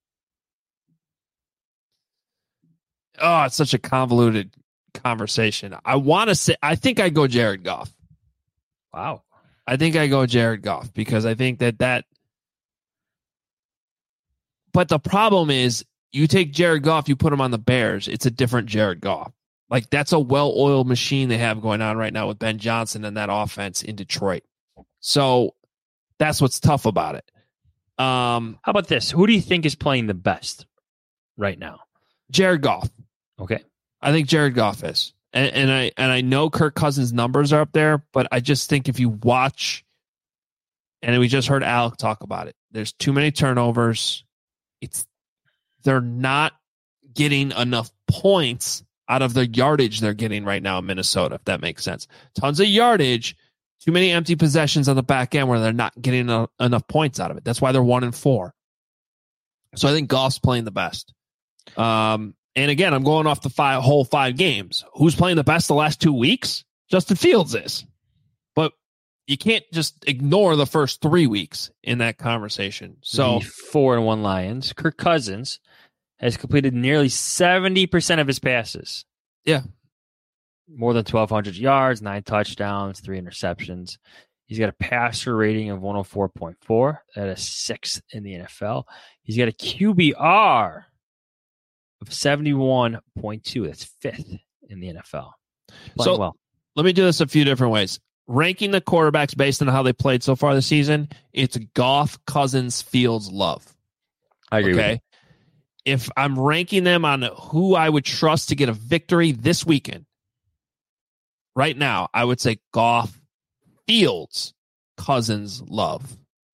Oh, it's such a convoluted conversation. I want to say, I think I go Jared Goff. Wow. I think I go Jared Goff because I think that that, but the problem is, you take Jared Goff, you put him on the Bears, it's a different Jared Goff. Like, that's a well-oiled machine they have going on right now with Ben Johnson and that offense in Detroit. So that's what's tough about it. Um, How about this? Who do you think is playing the best right now? Jared Goff. Okay. I think Jared Goff is. And, and I and I know Kirk Cousins' numbers are up there, but I just think if you watch, and we just heard Alec talk about it, there's too many turnovers. It's they're not getting enough points out of the yardage they're getting right now in Minnesota, if that makes sense. Tons of yardage, too many empty possessions on the back end where they're not getting enough, enough points out of it. That's why they're one and four. So I think Goff's playing the best. Um, and again, I'm going off the five, whole five games. Who's playing the best the last two weeks? Justin Fields is. But you can't just ignore the first three weeks in that conversation. So the four and one Lions. Kirk Cousins has completed nearly seventy percent of his passes. Yeah. More than twelve hundred yards, nine touchdowns, three interceptions. He's got a passer rating of one oh four point four. That is sixth in the N F L. He's got a Q B R of seventy-one point two. That's fifth in the N F L. Playing so well. Let me do this a few different ways. Ranking the quarterbacks based on how they played so far this season, it's Goff, Cousins, Fields, Love. I agree okay? with you. If I'm ranking them on who I would trust to get a victory this weekend, right now, I would say Goff, Fields, Cousins, Love.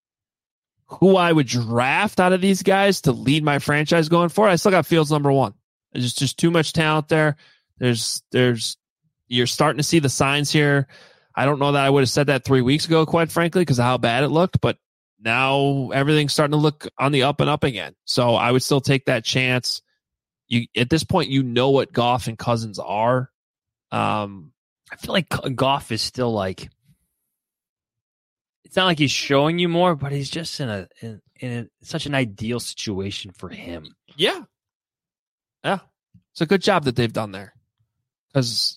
Who I would draft out of these guys to lead my franchise going forward, I still got Fields number one. There's just, just too much talent there. There's, there's, you're starting to see the signs here. I don't know that I would have said that three weeks ago, quite frankly, because of how bad it looked, but now everything's starting to look on the up and up again. So I would still take that chance. You at this point, you know what Goff and Cousins are. Um, I feel like Goff is still like, it's not like he's showing you more, but he's just in a in, in a, such an ideal situation for him. Yeah, yeah, it's a good job that they've done there. Because,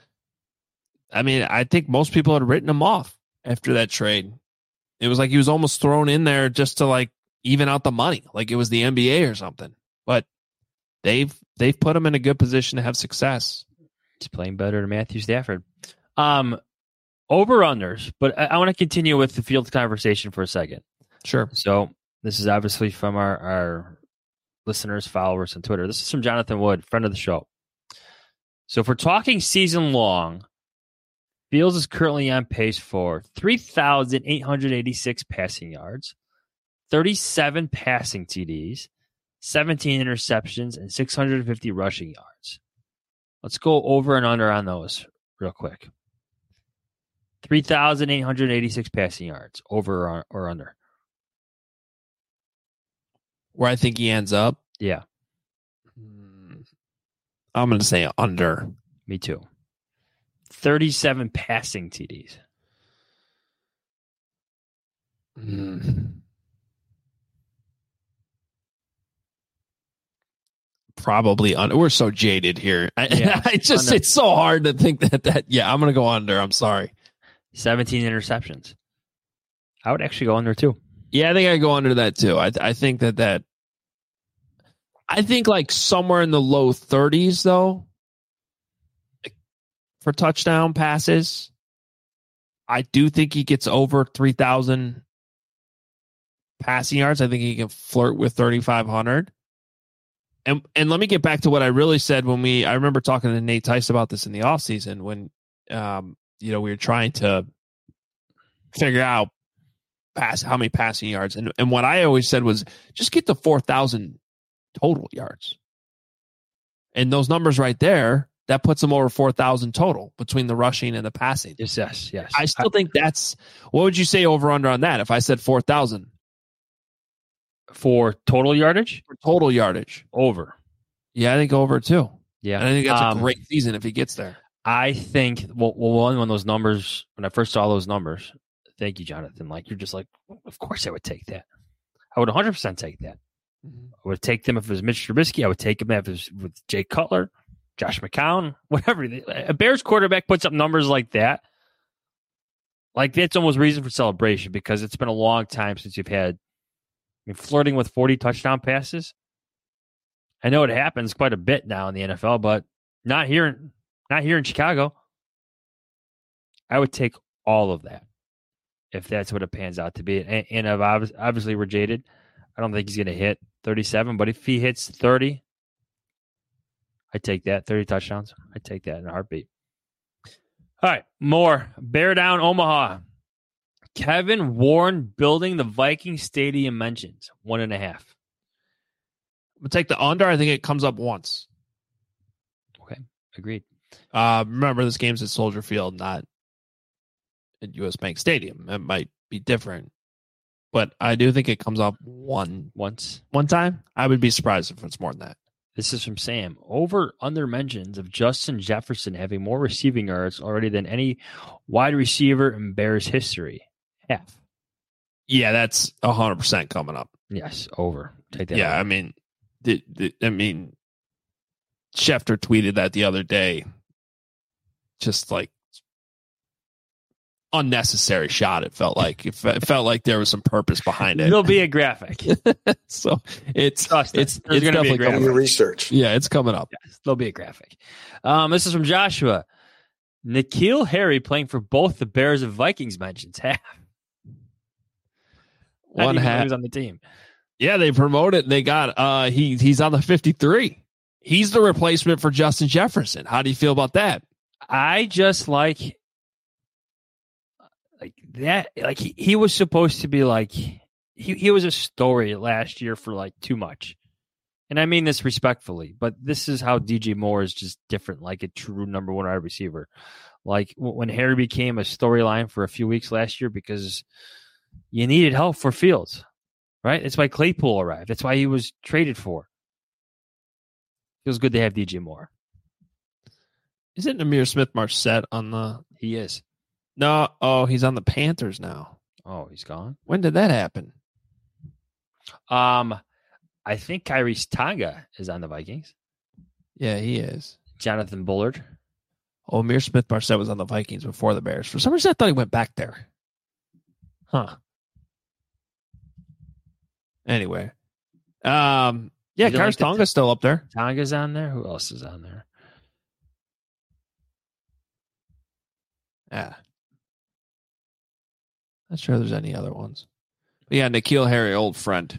I mean, I think most people had written him off after that trade. It was like he was almost thrown in there just to like even out the money, like it was the N B A or something. But they've they've put him in a good position to have success. He's playing better than Matthew Stafford. Um, over-unders, but I, I want to continue with the Fields conversation for a second. Sure. So this is obviously from our, our listeners, followers on Twitter. This is from Jonathan Wood, friend of the show. So if we're talking season long, Fields is currently on pace for three thousand eight hundred eighty-six passing yards, thirty-seven passing T Ds, seventeen interceptions, and six hundred fifty rushing yards. Let's go over and under on those real quick. three thousand eight hundred eighty-six passing yards, over or, or under? Where I think he ends up? Yeah. I'm going to say under. Me too. thirty-seven passing T Ds. Mm. Probably under. We're so jaded here. I, Yeah, I just, under. it's so hard to think that, that, yeah, I'm going to go under. I'm sorry. seventeen interceptions. I would actually go under too. Yeah, I think I go under that too. I I think that that I think like somewhere in the low thirties though for touchdown passes. I do think he gets over three thousand passing yards. I think he can flirt with thirty-five hundred. And and let me get back to what I really said when we I remember talking to Nate Tice about this in the offseason when um you know we were trying to figure out pass how many passing yards, and and what I always said was just get to four thousand total yards, and those numbers right there, that puts them over four thousand total between the rushing and the passing. Yes, yes, yes. I still I, think that's, what would you say over under on that if I said four thousand for total yardage? For total yardage, over. Yeah, I think over too. Yeah, and I think that's um, a great season if he gets there. I think well, well, one when those numbers, when I first saw those numbers. Thank you, Jonathan. Like, you're just like, of course I would take that. I would one hundred percent take that. Mm-hmm. I would take them if it was Mitch Trubisky. I would take them if it was with Jay Cutler, Josh McCown, whatever. A Bears quarterback puts up numbers like that. Like, that's almost reason for celebration because it's been a long time since you've had mean, flirting with forty touchdown passes. I know it happens quite a bit now in the N F L, but not here, not here in Chicago. I would take all of that if that's what it pans out to be. And, and I've obviously we're jaded. I don't think he's going to hit thirty-seven, but if he hits thirty, I take that. thirty touchdowns. I take that in a heartbeat. All right, more. Bear down Omaha. Kevin Warren building the Viking Stadium mentions. One and a half. We'll take the under. I think it comes up once. Okay, agreed. Uh, remember, this game's at Soldier Field, not at U S Bank Stadium. It might be different, but I do think it comes up one once, one time. I would be surprised if it's more than that. This is from Sam. Over under mentions of Justin Jefferson having more receiving yards already than any wide receiver in Bears history. Half. Yeah, that's a hundred percent coming up. Yes, over. Take that. Yeah, over. I mean. The, the, I mean, Schefter tweeted that the other day. Just like unnecessary shot. It felt like it, fe- it felt like there was some purpose behind it. There'll be a graphic, so it's Trust it's There's it's definitely coming. Your research. Yeah, it's coming up. Yes, there'll be a graphic. Um, this is from Joshua. N'Keal Harry playing for both the Bears and Vikings mentions half. One half. He was on the team. Yeah, they promoted. They got uh he he's on the fifty-three. He's the replacement for Justin Jefferson. How do you feel about that? I just like like that like he, he was supposed to be like he, he was a story last year for like too much. And I mean this respectfully, but this is how D J Moore is just different, like a true number one wide receiver. Like w- when Harry became a storyline for a few weeks last year because you needed help for Fields. Right? That's why Claypool arrived. That's why he was traded for. Feels good to have D J Moore. Isn't Amir Smith-Marset on the... He is. No. Oh, he's on the Panthers now. Oh, he's gone? When did that happen? Um, I think Kyrie Tonga is on the Vikings. Yeah, he is. Jonathan Bullard. Oh, Amir Smith-Marset was on the Vikings before the Bears. For some reason, I thought he went back there. Huh. Anyway, um, yeah, Kyrie Tonga's like still up there. Tonga's on there. Who else is on there? Yeah, not sure there's any other ones. But yeah, N'Keal Harry, old friend.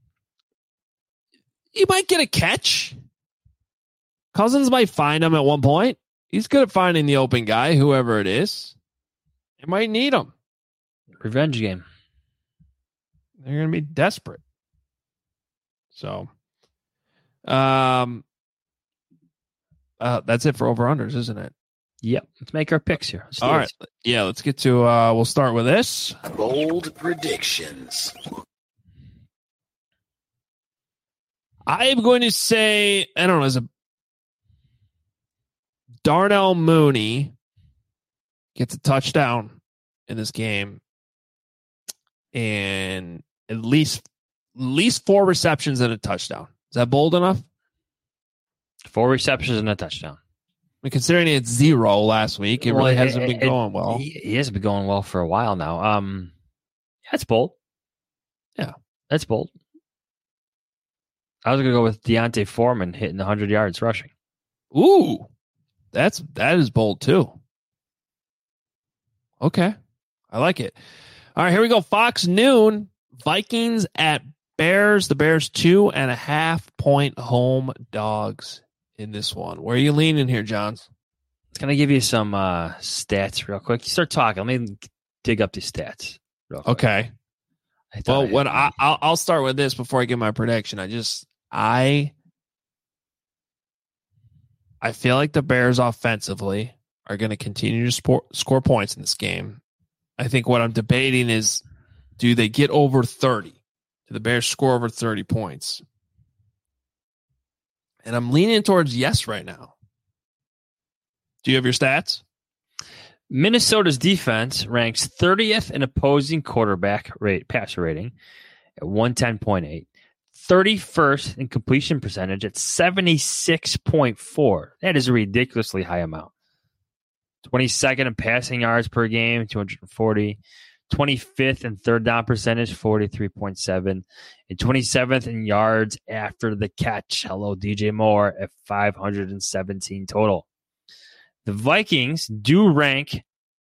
He might get a catch. Cousins might find him at one point. He's good at finding the open guy, whoever it is. They might need him. Revenge game. They're going to be desperate. So, um, uh, that's it for over-unders, isn't it? Yep. Let's make our picks here. Let's All right. Yeah, let's get to, uh, we'll start with this. Bold predictions. I'm going to say, I don't know, as a Darnell Mooney gets a touchdown in this game and at least at least four receptions and a touchdown. Is that bold enough? Four receptions and a touchdown. I mean, considering it's zero last week, it well, really it, hasn't it, been it, going well. He, he hasn't been going well for a while now. Um, that's bold. Yeah, that's bold. I was going to go with Deontay Foreman hitting one hundred yards rushing. Ooh, that's that is bold too. Okay, I like it. All right, here we go. Fox Noon, Vikings at Bears. The Bears two and a half point home dogs in this one. Where are you leaning here, Johns? It's going to give you some uh, stats real quick. You start talking. Let me dig up these stats real quick. Okay. Well, what I, I'll, I'll start with this before I give my prediction. I just I I feel like the Bears offensively are going to continue to score, score points in this game. I think what I'm debating is, do they get over thirty? Do the Bears score over thirty points? And I'm leaning towards yes right now. Do you have your stats? Minnesota's defense ranks thirtieth in opposing quarterback rate passer rating at one ten point eight. thirty-first in completion percentage at seventy-six point four. That is a ridiculously high amount. twenty-second in passing yards per game, two hundred forty. twenty-fifth in third down percentage, forty-three point seven, and twenty-seventh in yards after the catch. Hello, D J Moore at five hundred seventeen total. The Vikings do rank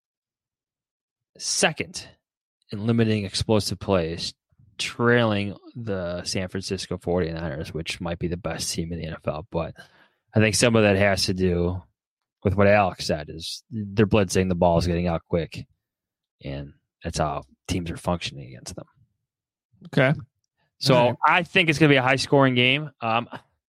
second in limiting explosive plays, trailing the San Francisco forty-niners, which might be the best team in the N F L. But I think some of that has to do with what Alex said, is they're blitzing, the ball is getting out quick, and that's how teams are functioning against them. Okay. So right. I think it's going to be a high-scoring game. Um,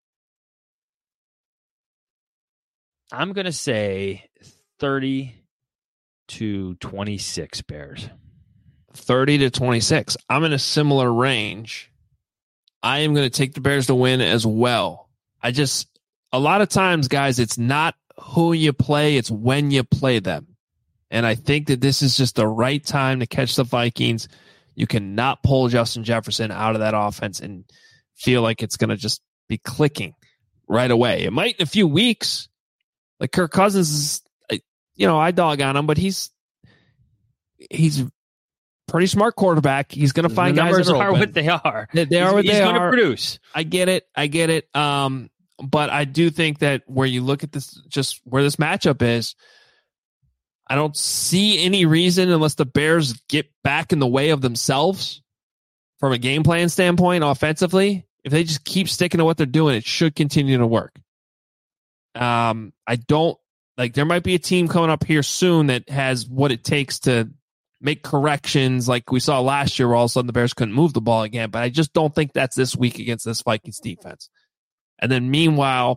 I'm going to say thirty to twenty-six Bears. thirty to twenty-six. I'm in a similar range. I am going to take the Bears to win as well. I just, a lot of times, guys, it's not who you play, it's when you play them. And I think that this is just the right time to catch the Vikings. You cannot pull Justin Jefferson out of that offense and feel like it's going to just be clicking right away. It might in a few weeks. Like Kirk Cousins is, you know, I dog on him, but he's he's pretty smart quarterback. He's going to find the guys numbers that are are open. what they are. They, they are what he's they going are. to produce. I get it. I get it. Um, but I do think that where you look at this, just where this matchup is, I don't see any reason, unless the Bears get back in the way of themselves from a game plan standpoint offensively. If they just keep sticking to what they're doing, it should continue to work. Um, I don't like, there might be a team coming up here soon that has what it takes to make corrections like we saw last year where all of a sudden the Bears couldn't move the ball again. But I just don't think that's this week against this Vikings defense. And then meanwhile,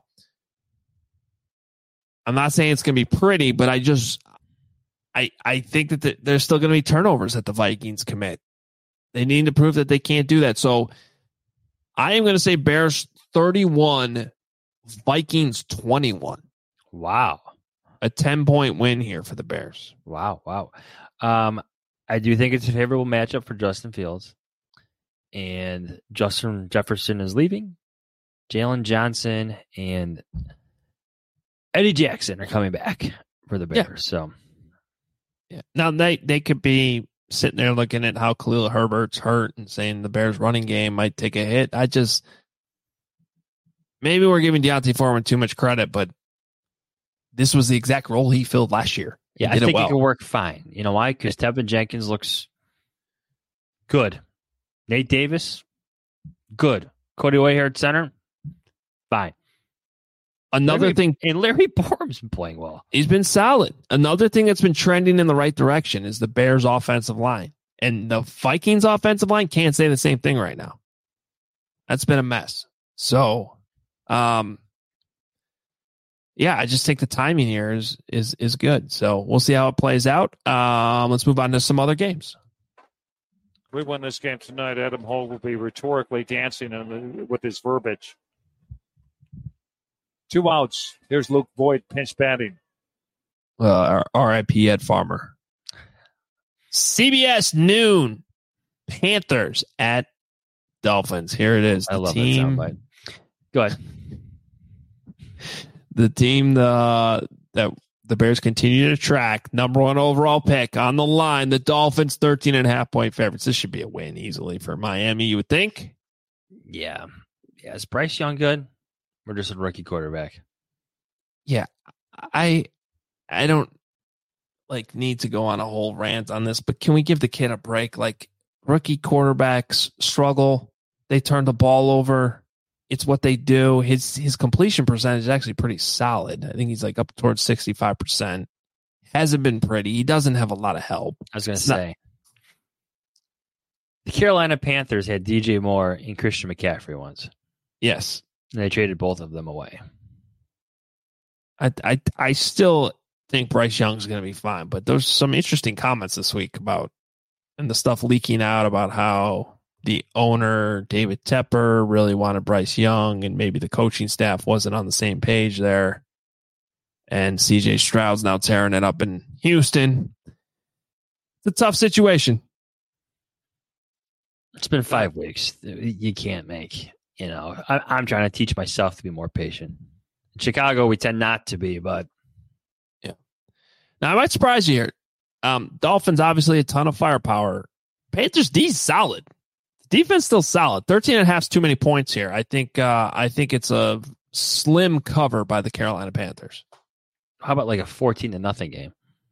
I'm not saying it's going to be pretty, but I just, I, I think that the, there's still going to be turnovers that the Vikings commit. They need to prove that they can't do that. So I am going to say Bears thirty-one, Vikings twenty-one. Wow. A ten-point win here for the Bears. Wow, wow. Um, I do think it's a favorable matchup for Justin Fields. And Justin Jefferson is leaving. Jalen Johnson and Eddie Jackson are coming back for the Bears. Yeah. So, yeah. Now they they could be sitting there looking at how Khalil Herbert's hurt and saying the Bears' running game might take a hit. I just maybe we're giving Deontay Foreman too much credit, but this was the exact role he filled last year. Yeah, I think it, well. it could work fine. You know why? Because Tevin Jenkins looks good. Nate Davis, good. Cody Whitehair at center, fine. Another Larry, thing, and Larry Borum's been playing well. He's been solid. Another thing that's been trending in the right direction is the Bears' offensive line. And the Vikings' offensive line can't say the same thing right now. That's been a mess. So, um, yeah, I just think the timing here is is is good. So we'll see how it plays out. Um, let's move on to some other games. If we win this game tonight, Adam Hogue will be rhetorically dancing in the, with his verbiage. Two outs. Here's Luke Voigt, pinch batting. Uh, R I P Ed Farmer. C B S noon. Panthers at Dolphins. Here it is. I the love team, that soundbite. Go ahead. The team the, that the Bears continue to track. Number one overall pick on the line. The Dolphins, thirteen and a half point favorites. This should be a win easily for Miami, you would think. Yeah. Yeah. Is Bryce Young good? Or just a rookie quarterback? Yeah. I I don't like need to go on a whole rant on this, but can we give the kid a break? Like, rookie quarterbacks struggle. They turn the ball over. It's what they do. His his completion percentage is actually pretty solid. I think he's like up towards sixty-five percent. Hasn't been pretty. He doesn't have a lot of help. I was going to say. Not... The Carolina Panthers had D J Moore and Christian McCaffrey once. Yes. And they traded both of them away. I I, I still think Bryce Young's going to be fine, but there's some interesting comments this week about, and the stuff leaking out about how the owner, David Tepper, really wanted Bryce Young, and maybe the coaching staff wasn't on the same page there. And C J Stroud's now tearing it up in Houston. It's a tough situation. It's been five weeks. You can't make, you know, I, I'm trying to teach myself to be more patient. In Chicago, we tend not to be, but. Yeah. Now, I might surprise you here. Um, Dolphins, obviously, a ton of firepower. Panthers, D's solid. Defense still solid. thirteen and a half is too many points here. I think uh, I think it's a slim cover by the Carolina Panthers. How about like a fourteen to nothing game?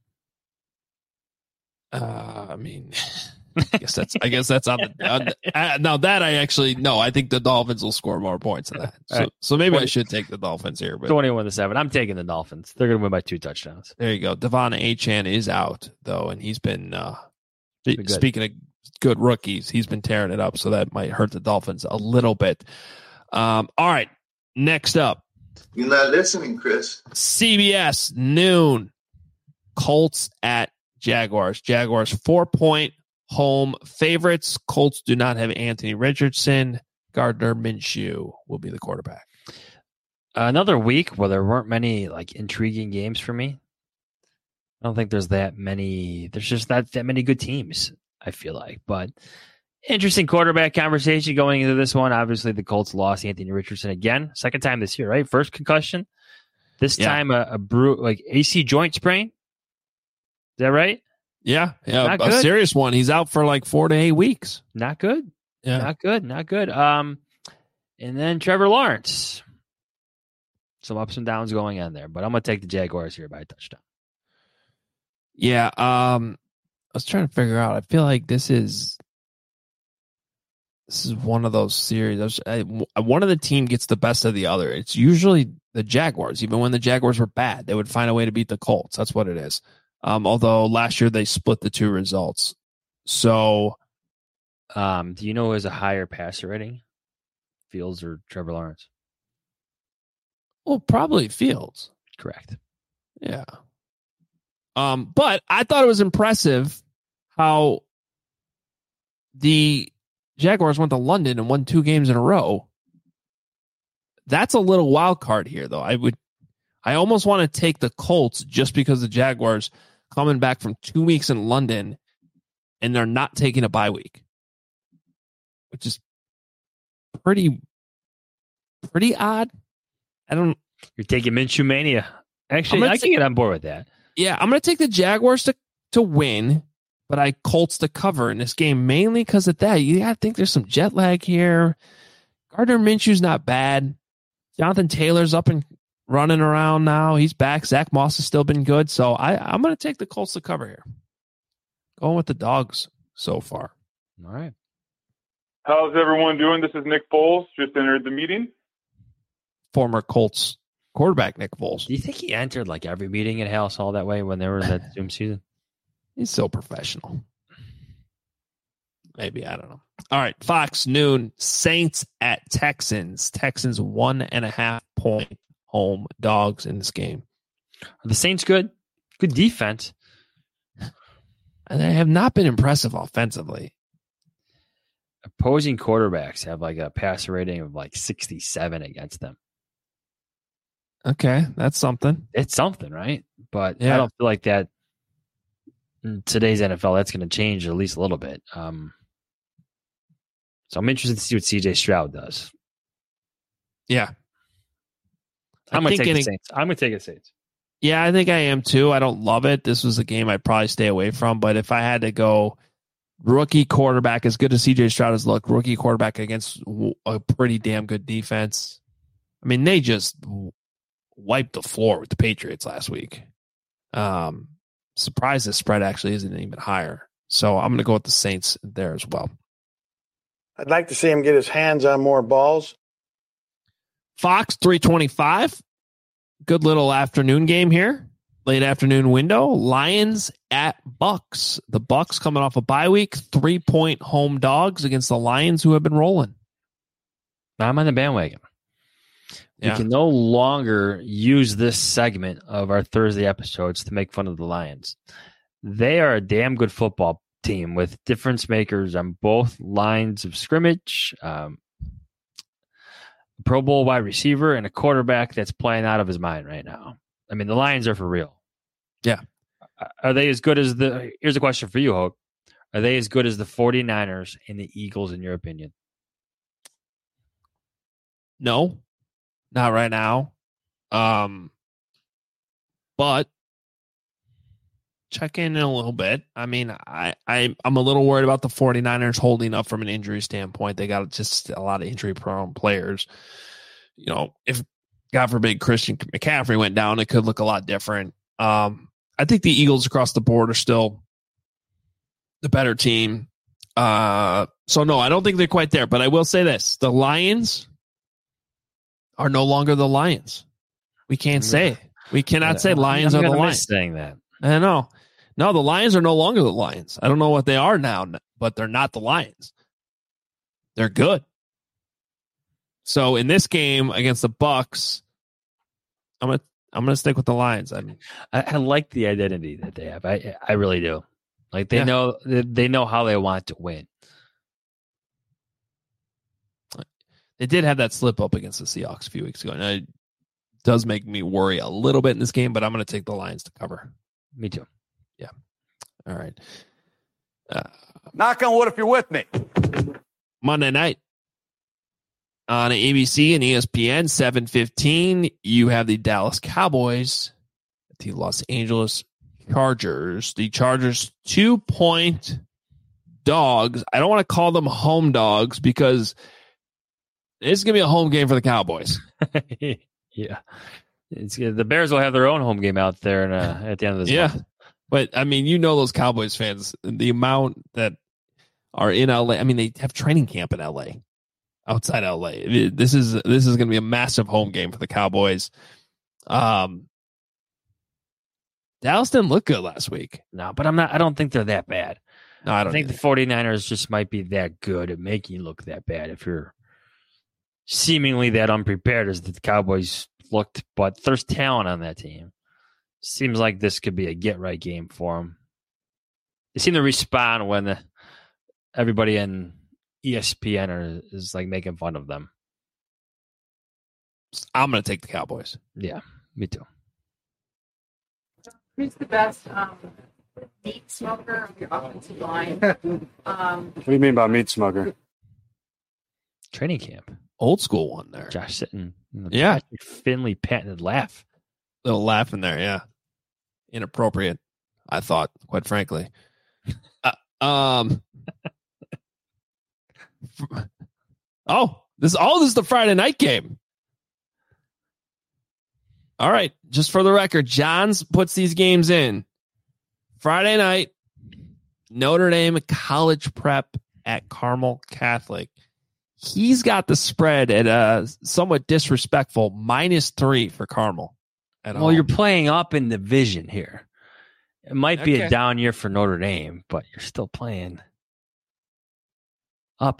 Uh, I mean, I guess that's I guess that's on the on the, uh, now that I actually no, I think the Dolphins will score more points than that. So, right. so maybe twenty I should take the Dolphins here. But twenty-one to seven. I'm taking the Dolphins. They're going to win by two touchdowns. There you go. Devon Achane is out though, and he's been uh, been speaking of good rookies, he's been tearing it up. So that might hurt the Dolphins a little bit. Um, all right, next up, you're not listening, Chris. C B S noon, Colts at Jaguars. Jaguars four point home favorites. Colts do not have Anthony Richardson. Gardner Minshew will be the quarterback. Another week where there weren't many like intriguing games for me. I don't think there's that many. There's just not that many good teams, I feel like. But interesting quarterback conversation going into this one. Obviously, the Colts lost Anthony Richardson again. Second time this year, right? First concussion. This yeah. time a, a bru- like A C joint sprain. Is that right? Yeah, yeah, a serious one. He's out for like four to eight weeks. Not good. Yeah, not good. Not good. Um, and then Trevor Lawrence. Some ups and downs going on there, but I'm gonna take the Jaguars here by a touchdown. Yeah. Um, I was trying to figure out. I feel like this is this is one of those series. I, one of the team gets the best of the other. It's usually the Jaguars. Even when the Jaguars were bad, they would find a way to beat the Colts. That's what it is. Um, although last year they split the two results. So, um, do you know who has a higher passer rating, Fields or Trevor Lawrence? Well, probably Fields. Correct. Yeah. Um, but I thought it was impressive how the Jaguars went to London and won two games in a row. That's a little wild card here, though. I would, I almost want to take the Colts just because the Jaguars coming back from two weeks in London and they're not taking a bye week, which is pretty, pretty odd. I don't. You're taking Minshew mania. Actually, I can get on board with that. Yeah, I'm going to take the Jaguars to, to win, but I Colts to cover in this game mainly because of that. You got to think there's some jet lag here. Gardner Minshew's not bad. Jonathan Taylor's up and running around now. He's back. Zach Moss has still been good. So I, I'm going to take the Colts to cover here. Going with the dogs so far. All right. How's everyone doing? This is Nick Foles. Just entered the meeting. Former Colts quarterback Nick Foles. Do you think he entered like every meeting at Halas Hall that way when they were in that Zoom season? He's so professional. Maybe, I don't know. All right, Fox noon, Saints at Texans. Texans one and a half point home dogs in this game. Are the Saints good? Good defense. And they have not been impressive offensively. Opposing quarterbacks have like a passer rating of like sixty-seven against them. Okay, that's something. It's something, right? But yeah. I don't feel like that in today's N F L, that's going to change at least a little bit. Um, so I'm interested to see what C J Stroud does. Yeah. I'm going to take the Saints. I'm going to take the Saints. Yeah, I think I am too. I don't love it. This was a game I'd probably stay away from. But if I had to go rookie quarterback, as good as C J Stroud has looked, rookie quarterback against a pretty damn good defense. I mean, they just wiped the floor with the Patriots last week. Um, surprised the spread actually isn't even higher. So I'm going to go with the Saints there as well. I'd like to see him get his hands on more balls. Fox three twenty-five. Good little afternoon game here. Late afternoon window. Lions at Bucks. The Bucks coming off a bye week. Three-point home dogs against the Lions who have been rolling. I'm on the bandwagon. We yeah. can no longer use this segment of our Thursday episodes to make fun of the Lions. They are a damn good football team with difference makers on both lines of scrimmage, um, Pro Bowl wide receiver, and a quarterback that's playing out of his mind right now. I mean, the Lions are for real. Yeah. Are they as good as the – here's a question for you, Hope. Are they as good as the 49ers and the Eagles, in your opinion? No. Not right now. Um, but check in a little bit. I mean, I, I, I'm a little worried about the 49ers holding up from an injury standpoint. They got just a lot of injury-prone players. You know, if, God forbid, Christian McCaffrey went down, it could look a lot different. Um, I think the Eagles across the board are still the better team. Uh, so, no, I don't think they're quite there. But I will say this. The Lions are no longer the Lions. We can't say. We cannot say Lions are the Lions. Saying that. I know. No, the Lions are no longer the Lions. I don't know what they are now, but they're not the Lions. They're good. So in this game against the Bucks, I'm gonna I'm gonna stick with the Lions. I mean, I, I like the identity that they have. I I really do. Like they Yeah. know they know how they want to win. they did have that slip up against the Seahawks a few weeks ago, and it does make me worry a little bit in this game. But I'm going to take the Lions to cover. Me too. Yeah. All right. Uh, Knock on wood if you're with me. Monday night on A B C and E S P N, seven fifteen, you have the Dallas Cowboys, the Los Angeles Chargers. The Chargers two-point dogs. I don't want to call them home dogs because it's going to be a home game for the Cowboys. Yeah. It's, the Bears will have their own home game out there in, uh, at the end of this Yeah. month. But, I mean, you know those Cowboys fans, the amount that are in L A. I mean, they have training camp in L A, outside L A. This is this is going to be a massive home game for the Cowboys. Um, Dallas didn't look good last week. No, but I'm not. I don't think they're that bad. No, I I, don't think either. the 49ers just might be that good at making you look that bad if you're seemingly that unprepared as the Cowboys looked. But there's talent on that team. Seems like this could be a get-right game for them. They seem to respond when the, everybody in E S P N are, is like making fun of them. I'm going to take the Cowboys. Yeah, me too. Who's the best um, meat smoker of your offensive line? Um, What do you mean by meat smoker? Training camp. Old school one there. Josh Sitton. The Yeah. Patrick Finley patented laugh. Little laugh in there, yeah. Inappropriate, I thought, quite frankly. uh, um. oh, this oh, this is the Friday night game. All right, just for the record, Johns puts these games in. Friday night, Notre Dame College Prep at Carmel Catholic. He's got the spread at a somewhat disrespectful minus three for Carmel. At Well, home. you're playing up in division here. It might be Okay. a down year for Notre Dame, but you're still playing up.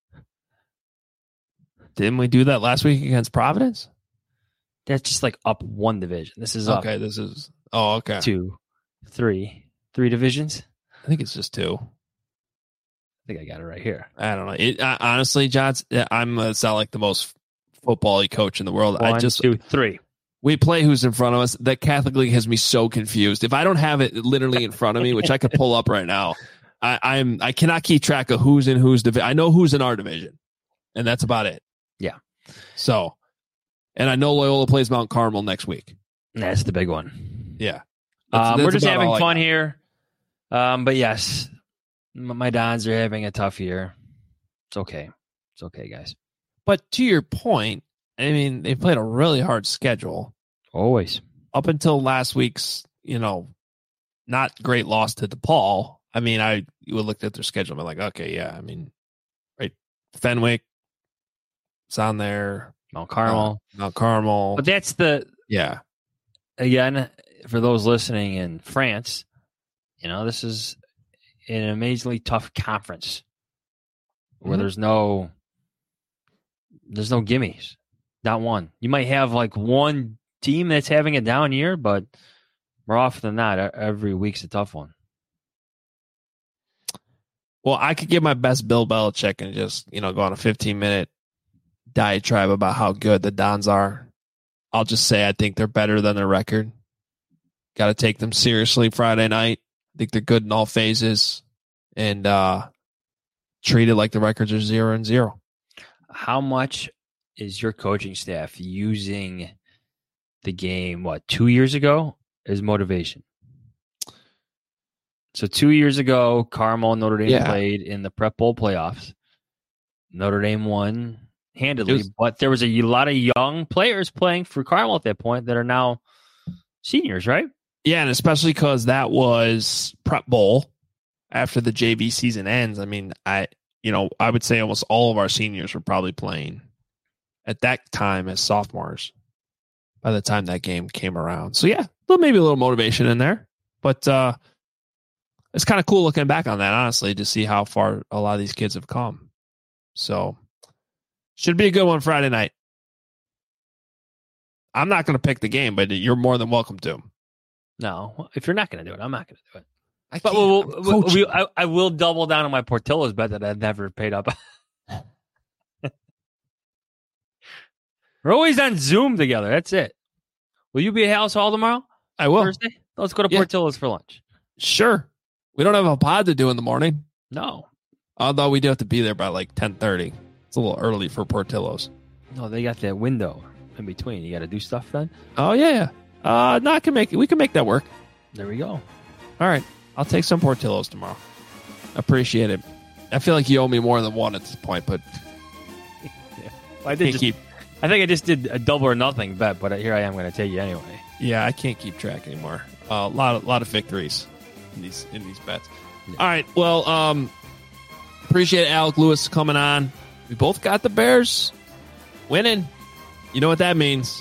Didn't we do that last week against Providence? That's just like up one division. This is up Okay, this is oh okay. two, three, three divisions. I think it's just two. I think I got it right here. I don't know. It, I, honestly, Johns, I'm uh, sound like the most football-y coach in the world. One, I just two, three. we play who's in front of us. That Catholic League has me so confused. If I don't have it literally in front of me, which I could pull up right now, I, I'm I cannot keep track of who's in whose division. I know who's in our division, and that's about it. Yeah. So, and I know Loyola plays Mount Carmel next week. That's the big one. Yeah. Um, That's- we're that's just about having all I fun got. here. Um, but yes, m- my Dons are having a tough year. It's okay. It's okay, guys. But to your point, I mean, they played a really hard schedule. Always. Up until last week's, you know, not great loss to DePaul. I mean, I you would looked at their schedule and be like, okay, yeah, I mean, right, Fenwick, it's on there. Mount Carmel. Uh, Mount Carmel. But that's the yeah. Again, for those listening in France, you know, this is an amazingly tough conference where Mhm. there's no there's no gimmies. Not one. You might have like one team that's having a down year, but more often than not, e- every week's a tough one. Well, I could give my best Bill Belichick and just, you know, go on a fifteen minute diatribe about how good the Dons are. I'll just say I think they're better than their record. Got to take them seriously Friday night. I think they're good in all phases and uh, treat it like the records are zero and zero. How much is your coaching staff using the game, what, two years ago as motivation? So two years ago, Carmel and Notre Dame Yeah. played in the Prep Bowl playoffs. Notre Dame won handedly, It was- but there was a lot of young players playing for Carmel at that point that are now seniors, right? Yeah, and especially because that was Prep Bowl after the J V season ends. I mean, I you know I would say almost all of our seniors were probably playing at that time as sophomores by the time that game came around. So yeah, well, maybe a little motivation in there, but uh, it's kind of cool looking back on that, honestly, to see how far a lot of these kids have come. So should be a good one Friday night. I'm not going to pick the game, but you're more than welcome to. No, if you're not going to do it, I'm not going to do it. I But we'll, we'll, we, I, I will double down on my Portillo's bet that I've never paid up. We're always on Zoom together. That's it. Will you be at House Hall tomorrow? I will. Thursday? Let's go to Yeah. Portillo's for lunch. Sure. We don't have a pod to do in the morning. No. Although we do have to be there by like ten thirty. It's a little early for Portillo's. No, they got that window in between. You got to do stuff then? Oh, yeah, yeah. Uh, no, I can make it. We can make that work. There we go. All right. I'll take some Portillo's tomorrow. Appreciate it. I feel like you owe me more than one at this point, but Well, I did can't just, keep. I think I just did a double or nothing bet, but here I am going to take you anyway. Yeah, I can't keep track anymore. A uh, lot, of, lot of victories in these in these bets. Yeah. All right. Well, um, appreciate Alec Lewis coming on. We both got the Bears winning. You know what that means?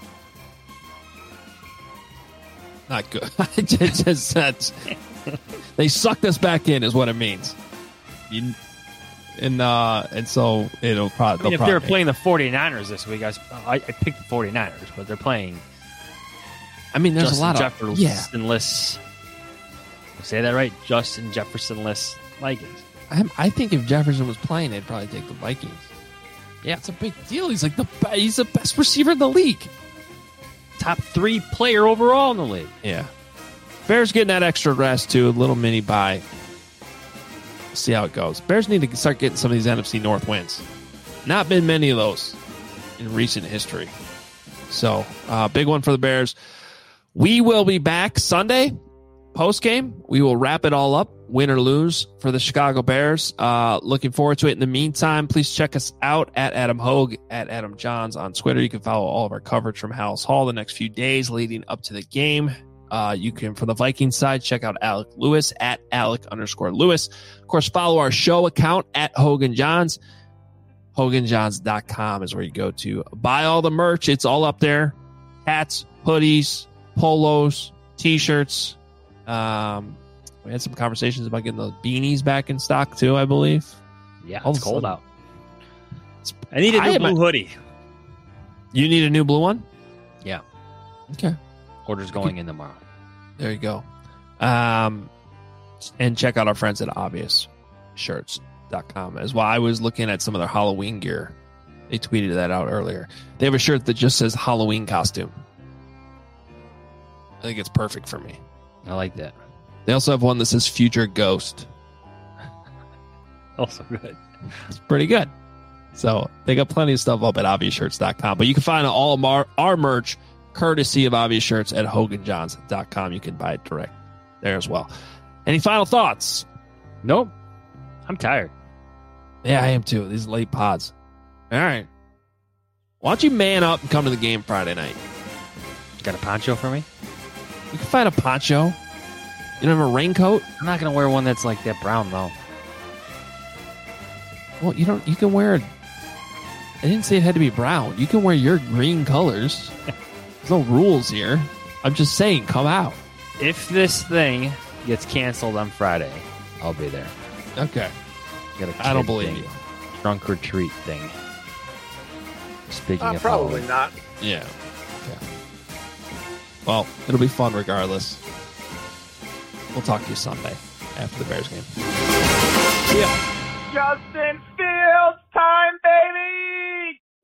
Not good. just, just, that's, they sucked us back in, is what it means. You, and uh, and so it'll probably. I mean, if they were playing the 49ers this week, I, was- I, I picked the 49ers, but they're playing. I mean, there's Justin a lot of Jefferson-less. Say that right? Justin Jefferson-less Vikings. I, I think if Jefferson was playing, they'd probably take the Vikings. Yeah, it's a big deal. He's like the be- he's the best receiver in the league. Top three player overall in the league. Yeah. Bears getting that extra rest too. A little mini bye. See how it goes. Bears need to start getting some of these N F C North wins. Not been many of those in recent history. So, uh, big one for the Bears. We will be back Sunday post game. We will wrap it all up, win or lose, for the Chicago Bears. Uh, looking forward to it. In the meantime, please check us out at Adam Hogue, at Adam Johns on Twitter. You can follow all of our coverage from House Hall the next few days leading up to the game. Uh, you can, for the Vikings side, check out Alec Lewis at Alec underscore Lewis. Of course, follow our show account at Hogan Johns. Hogan Johns dot com is where you go to buy all the merch. It's all up there. Hats, hoodies, polos, t-shirts. Um, we had some conversations about getting the beanies back in stock too, I believe. Yeah, All it's of a cold sudden- out. I need a I new am blue a- hoodie. You need a new blue one? Yeah. Okay. Order's going in tomorrow. There you go. Um, and check out our friends at obvious shirts dot com as well. I was looking at some of their Halloween gear. They tweeted that out earlier. They have a shirt that just says Halloween costume. I think it's perfect for me. I like that. They also have one that says Future Ghost. Also good. It's pretty good. So they got plenty of stuff up at obvious shirts dot com. But you can find all of our, our merch courtesy of Obvious Shirts at Hogan Johns dot com. You can buy it direct there as well. Any final thoughts? Nope. I'm tired. Yeah, I am too. These late pods. All right. Why don't you man up and come to the game Friday night? Got a poncho for me? You can find a poncho. You don't have a raincoat? I'm not going to wear one that's like that brown, though. Well, you don't. You can wear it. I didn't say it had to be brown. You can wear your green colors. There's no rules here. I'm just saying, come out. If this thing gets canceled on Friday, I'll be there. Okay. Got a I don't kid believe thing. you. Trunk or treat thing. Speaking Uh, of probably Halloween. not. Yeah. Okay. Well, it'll be fun regardless. We'll talk to you Sunday after the Bears game. See ya. Justin Fields.